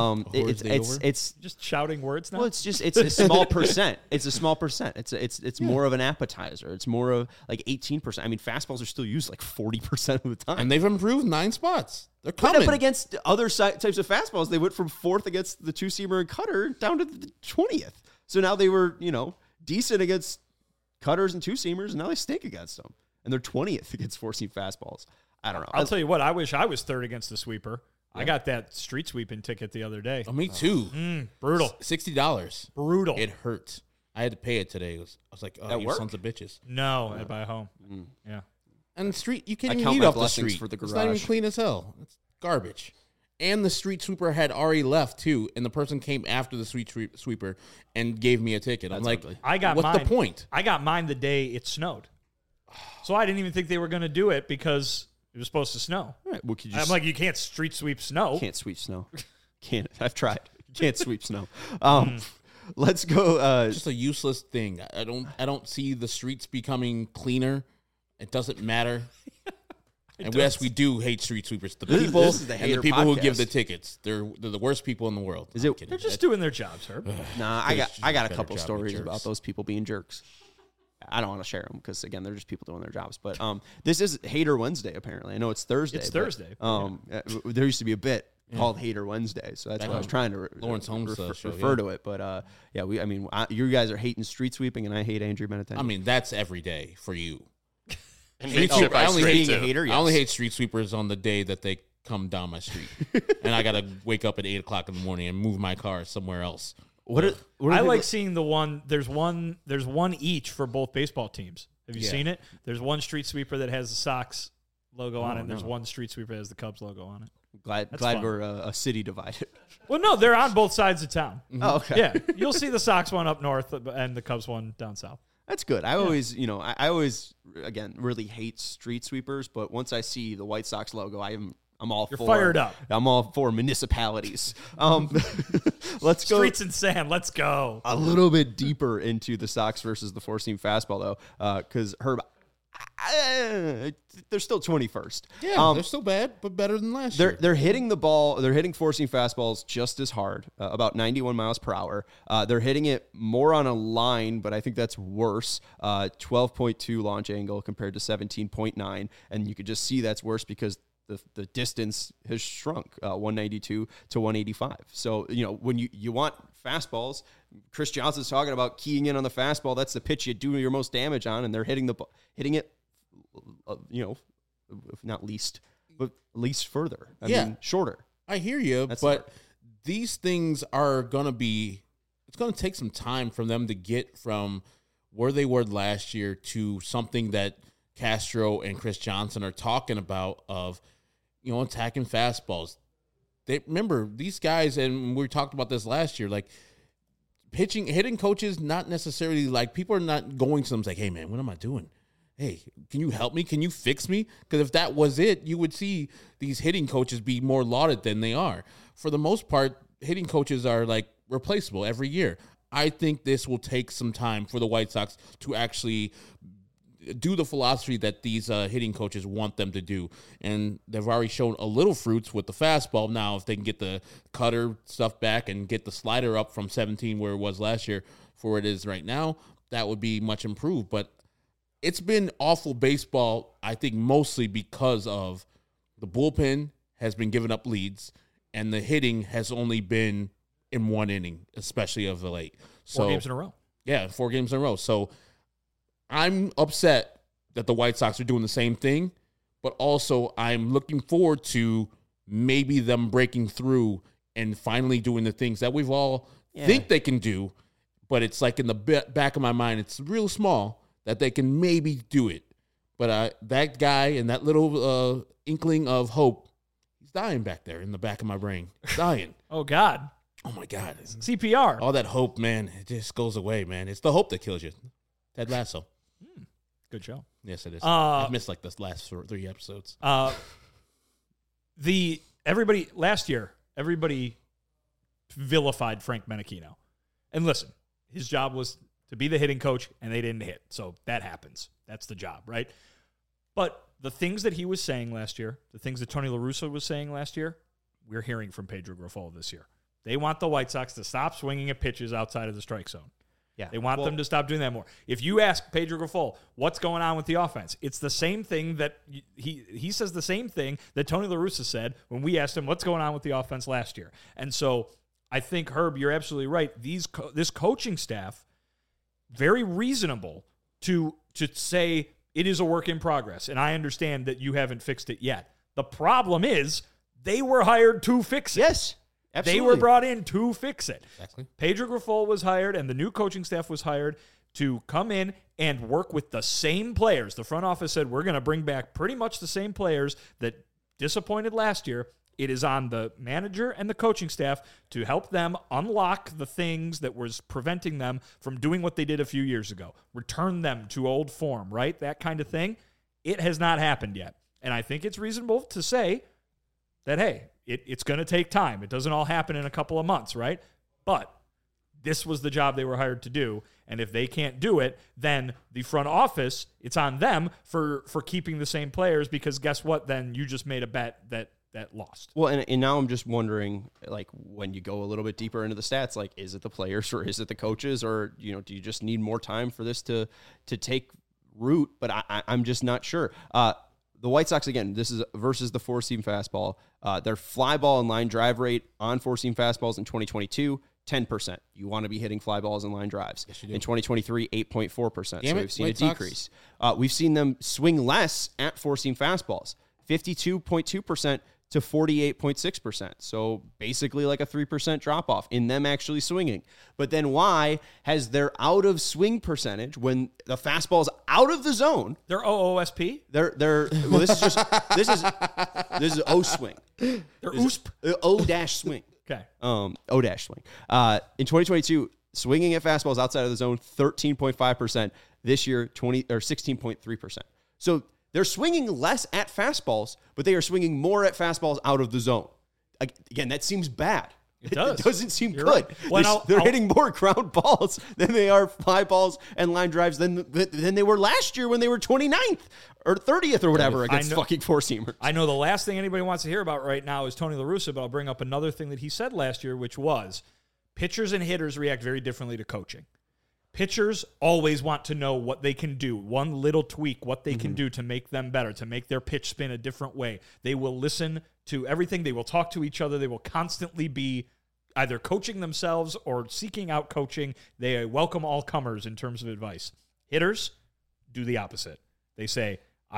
It's just shouting words now. Well, it's a small percent. It's a small percent. It's more of an appetizer. It's more of like 18%. I mean, fastballs are still used like 40% of the time. And they've improved 9 spots. They're coming. But against other types of fastballs, they went from 4th against the two-seamer and cutter down to the 20th. So now they were, decent against cutters and two-seamers, and now they stink against them. And they're 20th against four-seam fastballs. I don't know. I'll tell you what, I wish I was 3rd against the sweeper. Yeah. I got that street sweeping ticket the other day. Oh, me too. Brutal. $60. Brutal. It hurt. I had to pay it today. I was like, oh, you sons of bitches. No, at my home. Yeah. And the street, you can't even eat off the street. For the garage. It's not even clean as hell. It's garbage. And the street sweeper had already left too, and the person came after the street sweeper and gave me a ticket. I'm like, what's the point? I got mine the day it snowed. So I didn't even think they were going to do it because it was supposed to snow. Right. Well, I'm like, you can't street sweep snow. Can't sweep snow. Can't. I've tried. You can't sweep snow. Let's go. It's just a useless thing. I don't see the streets becoming cleaner. It doesn't matter. And yes, we do hate street sweepers. The people and the people who give the tickets. They're the worst people in the world. They're just doing their jobs, Herb. Nah, I got a couple stories about those people being jerks. I don't want to share them because again, they're just people doing their jobs. But this is Hater Wednesday. Apparently, I know it's Thursday. It's Thursday. There used to be a bit called Hater Wednesday, so that's why I was trying to Lawrence Holmes refer to it. But you guys are hating street sweeping, and I hate Andrew Benintendi. I mean, that's every day for you. I only hate street sweepers on the day that they come down my street, and I gotta wake up at 8:00 in the morning and move my car somewhere else. I like seeing the one. There's one each for both baseball teams. Have you seen it? There's one street sweeper that has the Sox logo on it, and there's one street sweeper that has the Cubs logo on it. Glad we're a city divided. Well, no, they're on both sides of town. Oh, okay. Yeah, you'll see the Sox one up north and the Cubs one down south. That's good. I always, again, really hate street sweepers, but once I see the White Sox logo, I'm all for. You're fired up. I'm all for municipalities. Let's go. Streets and sand. Let's go. A little bit deeper into the Sox versus the four-seam fastball, though, because Herb, they're still 21st. Yeah, they're still bad, but better than last year. They're hitting the ball. They're hitting four-seam fastballs just as hard, about 91 miles per hour. They're hitting it more on a line, but I think that's worse. 12.2 launch angle compared to 17.9, and you could just see that's worse because the distance has shrunk, 192 to 185. So, when you want fastballs, Chris Johnson's talking about keying in on the fastball. That's the pitch you do your most damage on, and they're hitting it, if not least, but least further. I mean, shorter. I hear you, but these things are going to be, it's going to take some time for them to get from where they were last year to something that Castro and Chris Johnson are talking about of, attacking fastballs. Remember, these guys, and we talked about this last year, like hitting coaches, not necessarily like people are not going to them like, hey man, what am I doing? Hey, can you help me? Can you fix me? Because if that was it, you would see these hitting coaches be more lauded than they are. For the most part, hitting coaches are like replaceable every year. I think this will take some time for the White Sox to actually do the philosophy that these hitting coaches want them to do. And they've already shown a little fruits with the fastball. Now, if they can get the cutter stuff back and get the slider up from 17 where it was last year for it is right now, that would be much improved. But it's been awful baseball, I think, mostly because of the bullpen has been giving up leads and the hitting has only been in one inning, especially of the late. 4 games in a row. Yeah, 4 games in a row. So I'm upset that the White Sox are doing the same thing, but also I'm looking forward to maybe them breaking through and finally doing the things that we've all think they can do, but it's like in the back of my mind, it's real small that they can maybe do it. But that guy and that little inkling of hope, he's dying back there in the back of my brain. He's dying. Oh, God. Oh, my God. CPR. All that hope, man, it just goes away, man. It's the hope that kills you. Ted Lasso. Good show. Yes, it is. I've missed like the last 3 episodes. Last year, everybody vilified Frank Menachino. And listen, his job was to be the hitting coach, and they didn't hit. So that happens. That's the job, right? But the things that he was saying last year, the things that Tony La Russa was saying last year, we're hearing from Pedro Grifol this year. They want the White Sox to stop swinging at pitches outside of the strike zone. Yeah. They want them to stop doing that more. If you ask Pedro Grifol, what's going on with the offense? It's the same thing that he says the same thing that Tony La Russa said when we asked him what's going on with the offense last year. And so I think, Herb, you're absolutely right. This coaching staff, very reasonable to say it is a work in progress. And I understand that you haven't fixed it yet. The problem is they were hired to fix it. Yes. Absolutely. They were brought in to fix it. Exactly. Pedro Grifol was hired, and the new coaching staff was hired to come in and work with the same players. The front office said, we're going to bring back pretty much the same players that disappointed last year. It is on the manager and the coaching staff to help them unlock the things that was preventing them from doing what they did a few years ago. Return them to old form, right? That kind of thing. It has not happened yet. And I think it's reasonable to say that, hey, it's going to take time. It doesn't all happen in a couple of months, right? But this was the job they were hired to do. And if they can't do it, then the front office, it's on them for keeping the same players, because guess what? Then you just made a bet that lost. Well, and now I'm just wondering, like, when you go a little bit deeper into the stats, like, is it the players or is it the coaches, or, you know, do you just need more time for this to take root? But I'm just not sure. The White Sox, again, this is versus the four-seam fastball. Their fly ball and line drive rate on four-seam fastballs in 2022, 10%. You want to be hitting fly balls and line drives. Yes, you do. In 2023, 8.4%. So we've seen White a decrease. We've seen them swing less at four-seam fastballs, 52.2% to 48.6%. So basically like a 3% drop-off in them actually swinging. But then why has their out-of-swing percentage, when the fastball's out of the zone... They're OOSP? Well, this is O-swing. They're OOSP? O-swing. Okay. O-swing. In 2022, swinging at fastballs outside of the zone, 13.5%. This year, 16.3%. So they're swinging less at fastballs, but they are swinging more at fastballs out of the zone. Again, that seems bad. It does. It doesn't seem You're good. right. Well, They're hitting more ground balls than they are fly balls and line drives than they were last year when they were 29th or 30th or whatever against fucking four-seamers. I know the last thing anybody wants to hear about right now is Tony La Russa, but I'll bring up another thing that he said last year, which was pitchers and hitters react very differently to coaching. Pitchers always want to know what they can do, one little tweak, what they can do to make them better, to make their pitch spin a different way. They will listen to everything. They will talk to each other. They will constantly be either coaching themselves or seeking out coaching. They welcome all comers in terms of advice. Hitters do the opposite. They say,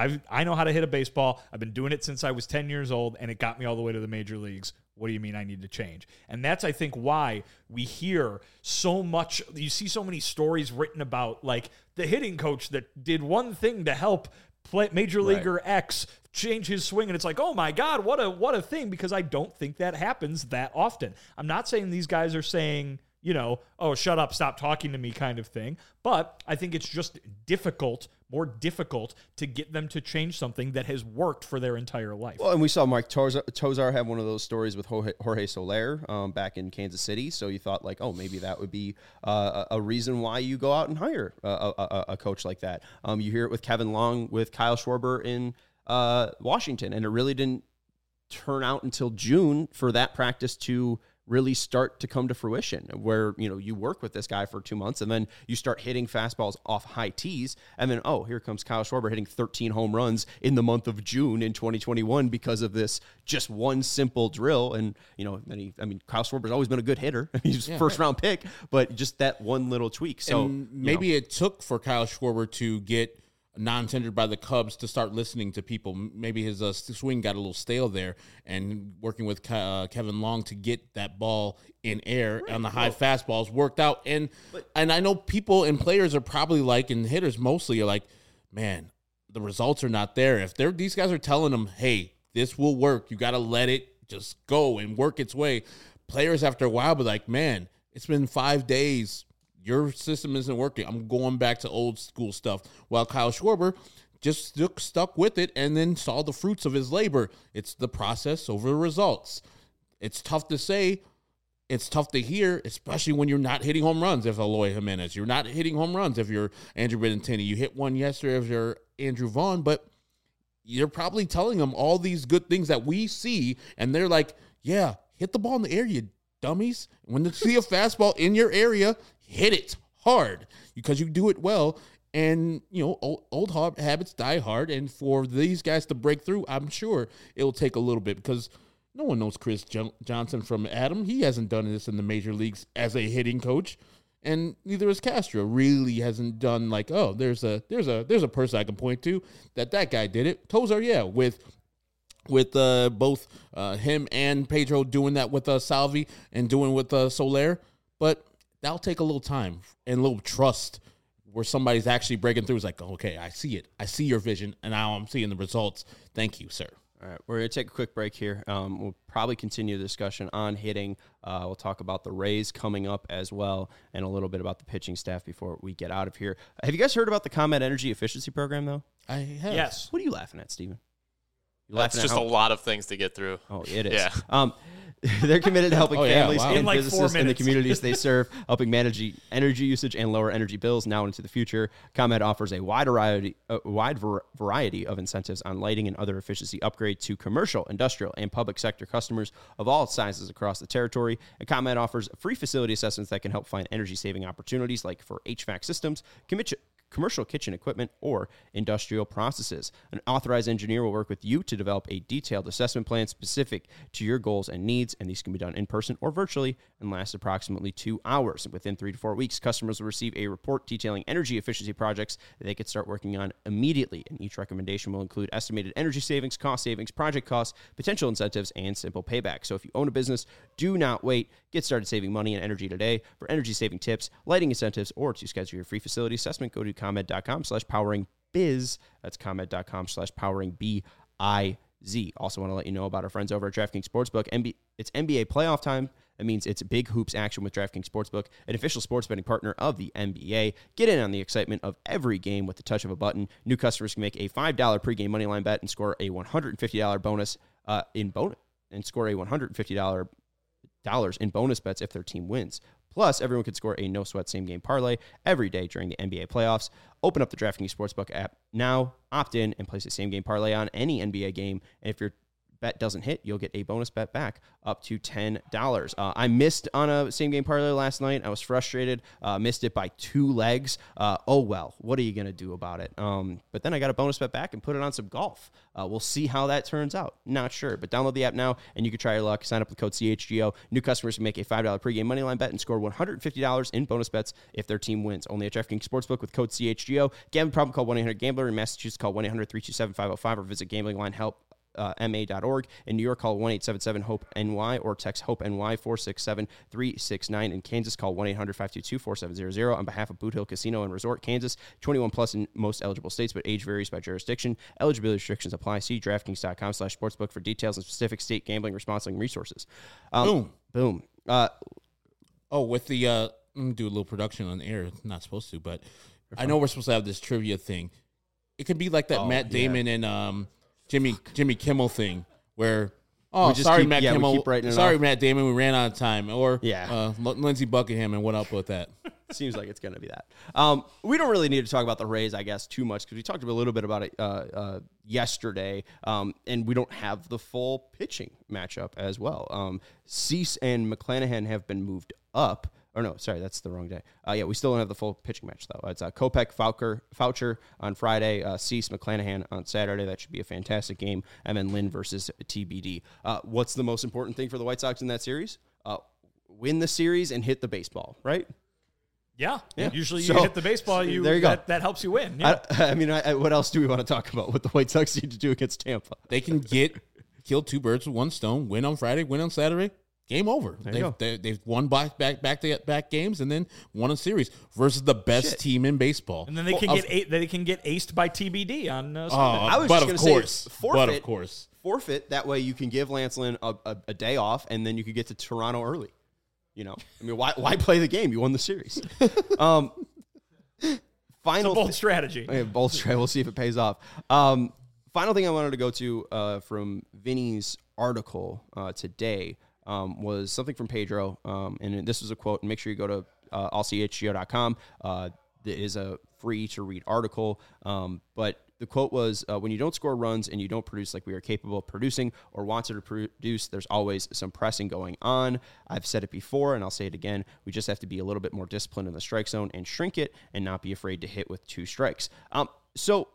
I know how to hit a baseball. I've been doing it since I was 10 years old, and it got me all the way to the major leagues. What do you mean I need to change? And that's, I think, why we hear so much. You see so many stories written about, like, the hitting coach that did one thing to help Major Leaguer X change his swing, and it's like, oh my God, what a thing, because I don't think that happens that often. I'm not saying these guys are saying, you know, oh, shut up, stop talking to me kind of thing, but I think it's just more difficult to get them to change something that has worked for their entire life. Well, and we saw Mike Tosar have one of those stories with Jorge Soler back in Kansas City, so you thought, like, oh, maybe that would be a reason why you go out and hire a coach like that. You hear it with Kevin Long, with Kyle Schwarber in Washington, and it really didn't turn out until June for that practice to really start to come to fruition, where, you know, you work with this guy for 2 months and then you start hitting fastballs off high tees, and then, oh, here comes Kyle Schwarber hitting 13 home runs in the month of June in 2021 because of this just one simple drill. And, you know, Kyle Schwarber's always been a good hitter. He's a first-round pick, but just that one little tweak. So and maybe it took for Kyle Schwarber to get non-tendered by the Cubs to start listening to people. Maybe his swing got a little stale there, and working with Kevin Long to get that ball in air on the high fastballs worked out. And I know people and players are probably like, and hitters mostly are like, man, the results are not there. If these guys are telling them, hey, this will work, you got to let it just go and work its way. Players after a while be like, man, it's been 5 days. Your system isn't working. I'm going back to old school stuff. While Kyle Schwarber just stuck with it and then saw the fruits of his labor. It's the process over the results. It's tough to say. It's tough to hear, especially when you're not hitting home runs if Eloy Jimenez. You're not hitting home runs if you're Andrew Benintendi. You hit one yesterday if you're Andrew Vaughn, but you're probably telling them all these good things that we see, and they're like, yeah, hit the ball in the air, you dummies. When you see a fastball in your area, hit it hard because you do it well. And, old habits die hard. And for these guys to break through, I'm sure it'll take a little bit because no one knows Chris Johnson from Adam. He hasn't done this in the major leagues as a hitting coach. And neither is Castro. Really hasn't done like, oh, there's a person I can point to that guy did it. Tozar, yeah, with both him and Pedro doing that with Salvi and doing with Soler. But that'll take a little time and a little trust where somebody's actually breaking through. It's like, okay, I see it. I see your vision, and now I'm seeing the results. Thank you, sir. All right, we're going to take a quick break here. We'll probably continue the discussion on hitting. We'll talk about the Rays coming up as well and a little bit about the pitching staff before we get out of here. Have you guys heard about the ComEd Energy Efficiency Program, though? I have. Yes. What are you laughing at, Steven? That's just a lot of things to get through. Oh, it is. Yeah. They're committed to helping families wow. and In like 4 businesses in the minutes. communities they serve, helping manage energy usage and lower energy bills now and into the future. ComEd offers a wide variety of incentives on lighting and other efficiency upgrades to commercial, industrial, and public sector customers of all sizes across the territory. And ComEd offers free facility assessments that can help find energy-saving opportunities like for HVAC systems, commercial kitchen equipment, or industrial processes. An authorized engineer will work with you to develop a detailed assessment plan specific to your goals and needs, and these can be done in person or virtually and last approximately 2 hours. Within 3 to 4 weeks, customers will receive a report detailing energy efficiency projects that they could start working on immediately, and each recommendation will include estimated energy savings, cost savings, project costs, potential incentives, and simple payback. So if you own a business, do not wait. Get started saving money and energy today. For energy-saving tips, lighting incentives, or to schedule your free facility assessment, go to ComEd.com/poweringbiz. That's ComEd.com/poweringbiz. Also want to let you know about our friends over at DraftKings Sportsbook. It's NBA playoff time. That means it's big hoops action with DraftKings Sportsbook, an official sports betting partner of the NBA. Get in on the excitement of every game with the touch of a button. New customers can make a $5 pregame moneyline bet and score a $150 bonus and score a $150 in bonus bets if their team wins. Plus, everyone can score a no-sweat same-game parlay every day during the NBA playoffs. Open up the DraftKings Sportsbook app now, opt in, and place a same-game parlay on any NBA game. And if your bet doesn't hit, you'll get a bonus bet back up to $10. I missed on a same-game parlay last night. I was frustrated. Missed it by 2 legs. Oh, well, what are you going to do about it? But then I got a bonus bet back and put it on some golf. We'll see how that turns out. Not sure, but download the app now, and you can try your luck. Sign up with code CHGO. New customers can make a $5 pregame moneyline bet and score $150 in bonus bets if their team wins. Only at DraftKings Sportsbook with code CHGO. Gambling problem, call 1-800-GAMBLER. In Massachusetts, call 1-800-327-505 or visit gamblinglinehelp.ma.org. In New York, call 1-877-HOPE-NY or text HOPE-NY 467-369. In Kansas, call 1-800-522-4700. On behalf of Boot Hill Casino and Resort, Kansas, 21 plus in most eligible states, but age varies by jurisdiction. Eligibility restrictions apply. See DraftKings.com/sportsbook for details and specific state gambling responsibility and resources. Boom. With the I'm gonna do a little production on air. Not supposed to, but I know we're supposed to have this trivia thing. It could be like that Matt Damon and Jimmy Kimmel thing where, Matt Kimmel. Matt Damon, we ran out of time. Or Lindsey Buckingham and went up with that. Seems like it's going to be that. We don't really need to talk about the Rays, I guess, too much because we talked a little bit about it yesterday, and we don't have the full pitching matchup as well. Cease and McClanahan have been moved up. Or no, sorry, that's the wrong day. We still don't have the full pitching match, though. It's Kopech, Foucher on Friday, Cease, McClanahan on Saturday. That should be a fantastic game. And then Lynn versus TBD. What's the most important thing for the White Sox in that series? Win the series and hit the baseball, right? Yeah. Usually you So, hit the baseball, there you go. That helps you win. Yeah. I mean, what else do we want to talk about? What the White Sox need to do against Tampa? They can kill two birds with one stone. Win on Friday, win on Saturday. Game over. They've won back games and then won a series versus the best team in baseball. And then they can get aced by TBD on Sunday. I was but just of going to course, say forfeit. But of course, forfeit. That way you can give Lance Lynn a day off, and then you could get to Toronto early. I mean, why play the game? You won the series. Final it's a bold strategy. Bold strategy. We'll see if it pays off. Final thing I wanted to go to from Vinny's article today was something from Pedro, and this was a quote. And make sure you go to allchgo.com. It is a free-to-read article, but the quote was, when you don't score runs and you don't produce like we are capable of producing or want to produce, there's always some pressing going on. I've said it before, and I'll say it again. We just have to be a little bit more disciplined in the strike zone and shrink it and not be afraid to hit with 2 strikes. So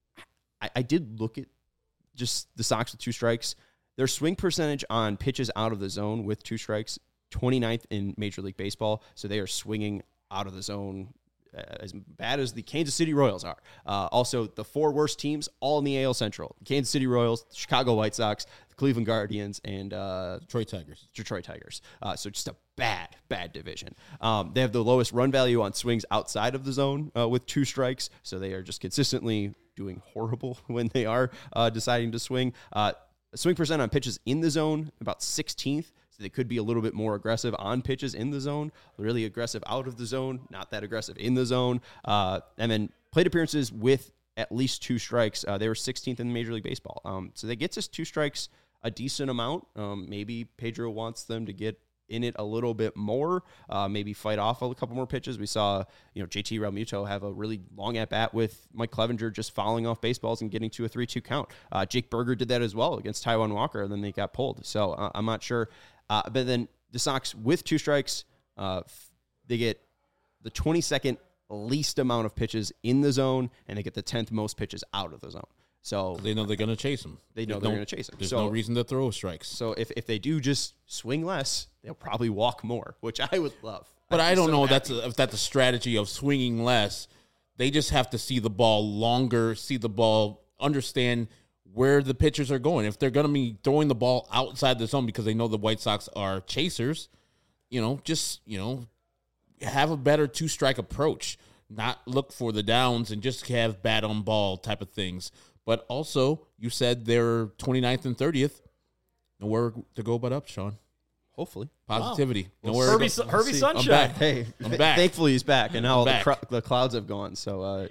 I did look at just the Sox with 2 strikes. Their swing percentage on pitches out of the zone with 2 strikes, 29th in Major League Baseball. So they are swinging out of the zone as bad as the Kansas City Royals are. Also, the 4 worst teams, all in the AL Central. Kansas City Royals, the Chicago White Sox, the Cleveland Guardians, and Detroit Tigers. So just a bad division. They have the lowest run value on swings outside of the zone with 2 strikes. So they are just consistently doing horrible when they are deciding to swing. Swing percent on pitches in the zone, about 16th. So they could be a little bit more aggressive on pitches in the zone, really aggressive out of the zone, not that aggressive in the zone. And then plate appearances with at least 2 strikes. They were 16th in Major League Baseball. So they get to 2 strikes a decent amount. Maybe Pedro wants them to get in it a little bit more, maybe fight off a couple more pitches. We saw, JT Realmuto have a really long at bat with Mike Clevenger just fouling off baseballs and getting to a 3-2 count. Jake Berger did that as well against Taijuan Walker, and then they got pulled. So I'm not sure. But then the Sox with 2 strikes, they get the 22nd least amount of pitches in the zone, and they get the 10th most pitches out of the zone. So they know they're going to chase him. They know they're going to chase him. There's no reason to throw strikes. So if they do just swing less, they'll probably walk more, which I would love. But I don't know if that's a strategy of swinging less. They just have to see the ball longer, see the ball, understand where the pitchers are going. If they're going to be throwing the ball outside the zone because they know the White Sox are chasers, have a better 2-strike approach. Not look for the downs and just have bat on ball type of things. But also, you said they're 29th and 30th. Nowhere to go but up, Sean. Hopefully. Positivity. Wow. Herbie Sunshine. I'm back. Hey, I'm back. Thankfully he's back, and now the clouds have gone. So,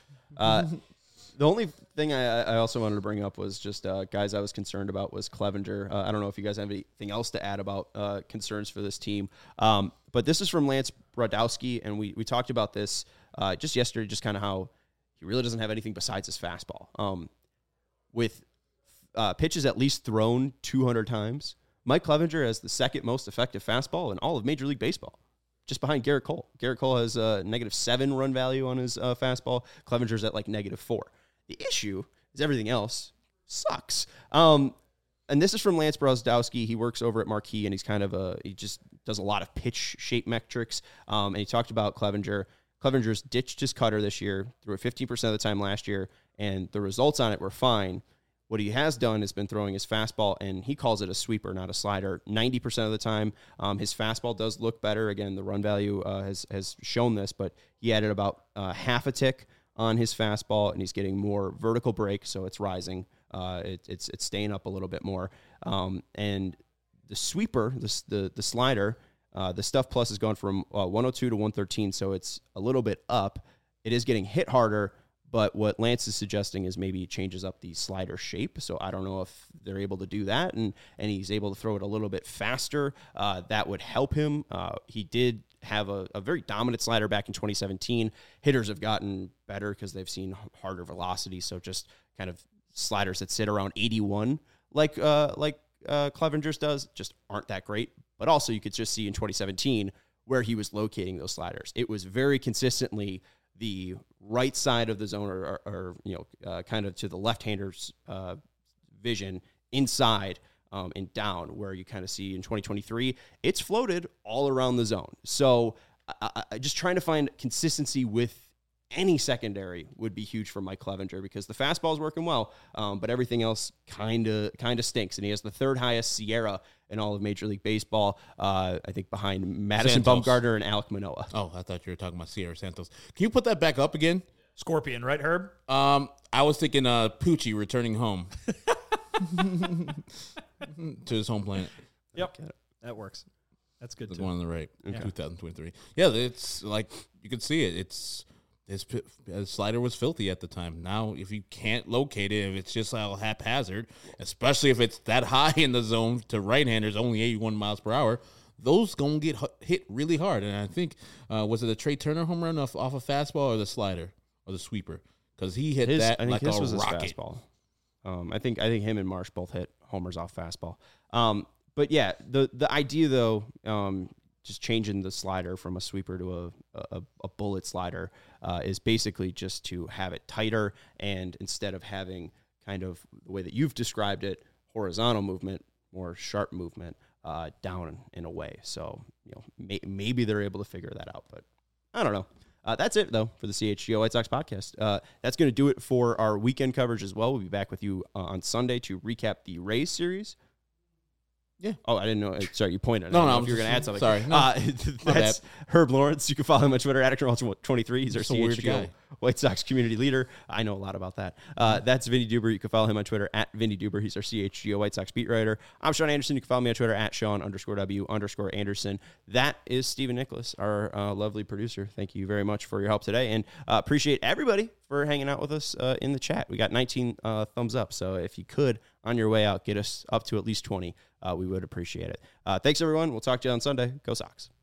the only thing I also wanted to bring up was just guys I was concerned about was Clevenger. I don't know if you guys have anything else to add about concerns for this team. But this is from Lance Brodowski, and we talked about this just yesterday, just kind of how he really doesn't have anything besides his fastball. With pitches at least thrown 200 times, Mike Clevenger has the 2nd most effective fastball in all of Major League Baseball, just behind Garrett Cole. Garrett Cole has a -7 run value on his fastball. Clevenger's at like -4. The issue is everything else sucks. And this is from Lance Brodowski. He works over at Marquee, and he's he just does a lot of pitch shape metrics. And he talked about Clevenger. Clevenger's ditched his cutter this year, threw it 15% of the time last year, and the results on it were fine. What he has done has been throwing his fastball, and he calls it a sweeper, not a slider, 90% of the time. His fastball does look better. Again, the run value has shown this, but he added about half a tick on his fastball, and he's getting more vertical break, so it's rising. It's staying up a little bit more. And the sweeper, the slider, the stuff plus has gone from 102 to 113, so it's a little bit up. It is getting hit harder, but what Lance is suggesting is maybe he changes up the slider shape. So I don't know if they're able to do that, and he's able to throw it a little bit faster. That would help him. He did have a very dominant slider back in 2017. Hitters have gotten better because they've seen harder velocity, so just kind of sliders that sit around 81 like Clevenger's does just aren't that great. But also you could just see in 2017 where he was locating those sliders. It was very consistently the right side of the zone or kind of to the left-hander's vision inside and down, where you kind of see in 2023, it's floated all around the zone. So just trying to find consistency with any secondary would be huge for Mike Clevenger, because the fastball is working well, but everything else kind of stinks. And he has the third highest Sierra in all of Major League Baseball, I think behind Madison Santos. Bumgarner and Alek Manoah. Oh, I thought you were talking about Sierra Santos. Can you put that back up again? Scorpion, right, Herb? I was thinking Poochie returning home to his home planet. Yep, that works. That's good There's too. one on the right, Okay. 2023. Yeah, it's like you can see it. It's his slider was filthy at the time. Now, if you can't locate it, if it's just all haphazard, especially if it's that high in the zone to right-handers, only 81 miles per hour, those gonna get hit really hard. And I think was it a Trey Turner home run off a fastball or the slider or the sweeper? Because he hit that I think like his a was rocket. his fastball. I think him and Marsh both hit homers off fastball. But yeah, the idea though, just changing the slider from a sweeper to a bullet slider is basically just to have it tighter, and instead of having kind of the way that you've described it, horizontal movement, more sharp movement down and away. So maybe they're able to figure that out, but I don't know. That's it, though, for the CHGO White Sox podcast. That's going to do it for our weekend coverage as well. We'll be back with you on Sunday to recap the Rays series. Yeah. Oh, I didn't know. Sorry, you pointed. No, if you were going to add something. Sorry. No, that's Herb Lawrence. You can follow him on Twitter at @Extra23. He's our Just a weird CHGO guy. White Sox community leader. I know a lot about that. That's Vinny Duber. You can follow him on Twitter at Vinny Duber. He's our CHGO White Sox beat writer. I'm Sean Anderson. You can follow me on Twitter at Sean_W_Anderson. That is Stephen Nicholas, our lovely producer. Thank you very much for your help today, and appreciate everybody for hanging out with us in the chat. We got 19 thumbs up, so if you could, on your way out, get us up to at least 20. We would appreciate it. Thanks, everyone. We'll talk to you on Sunday. Go Sox.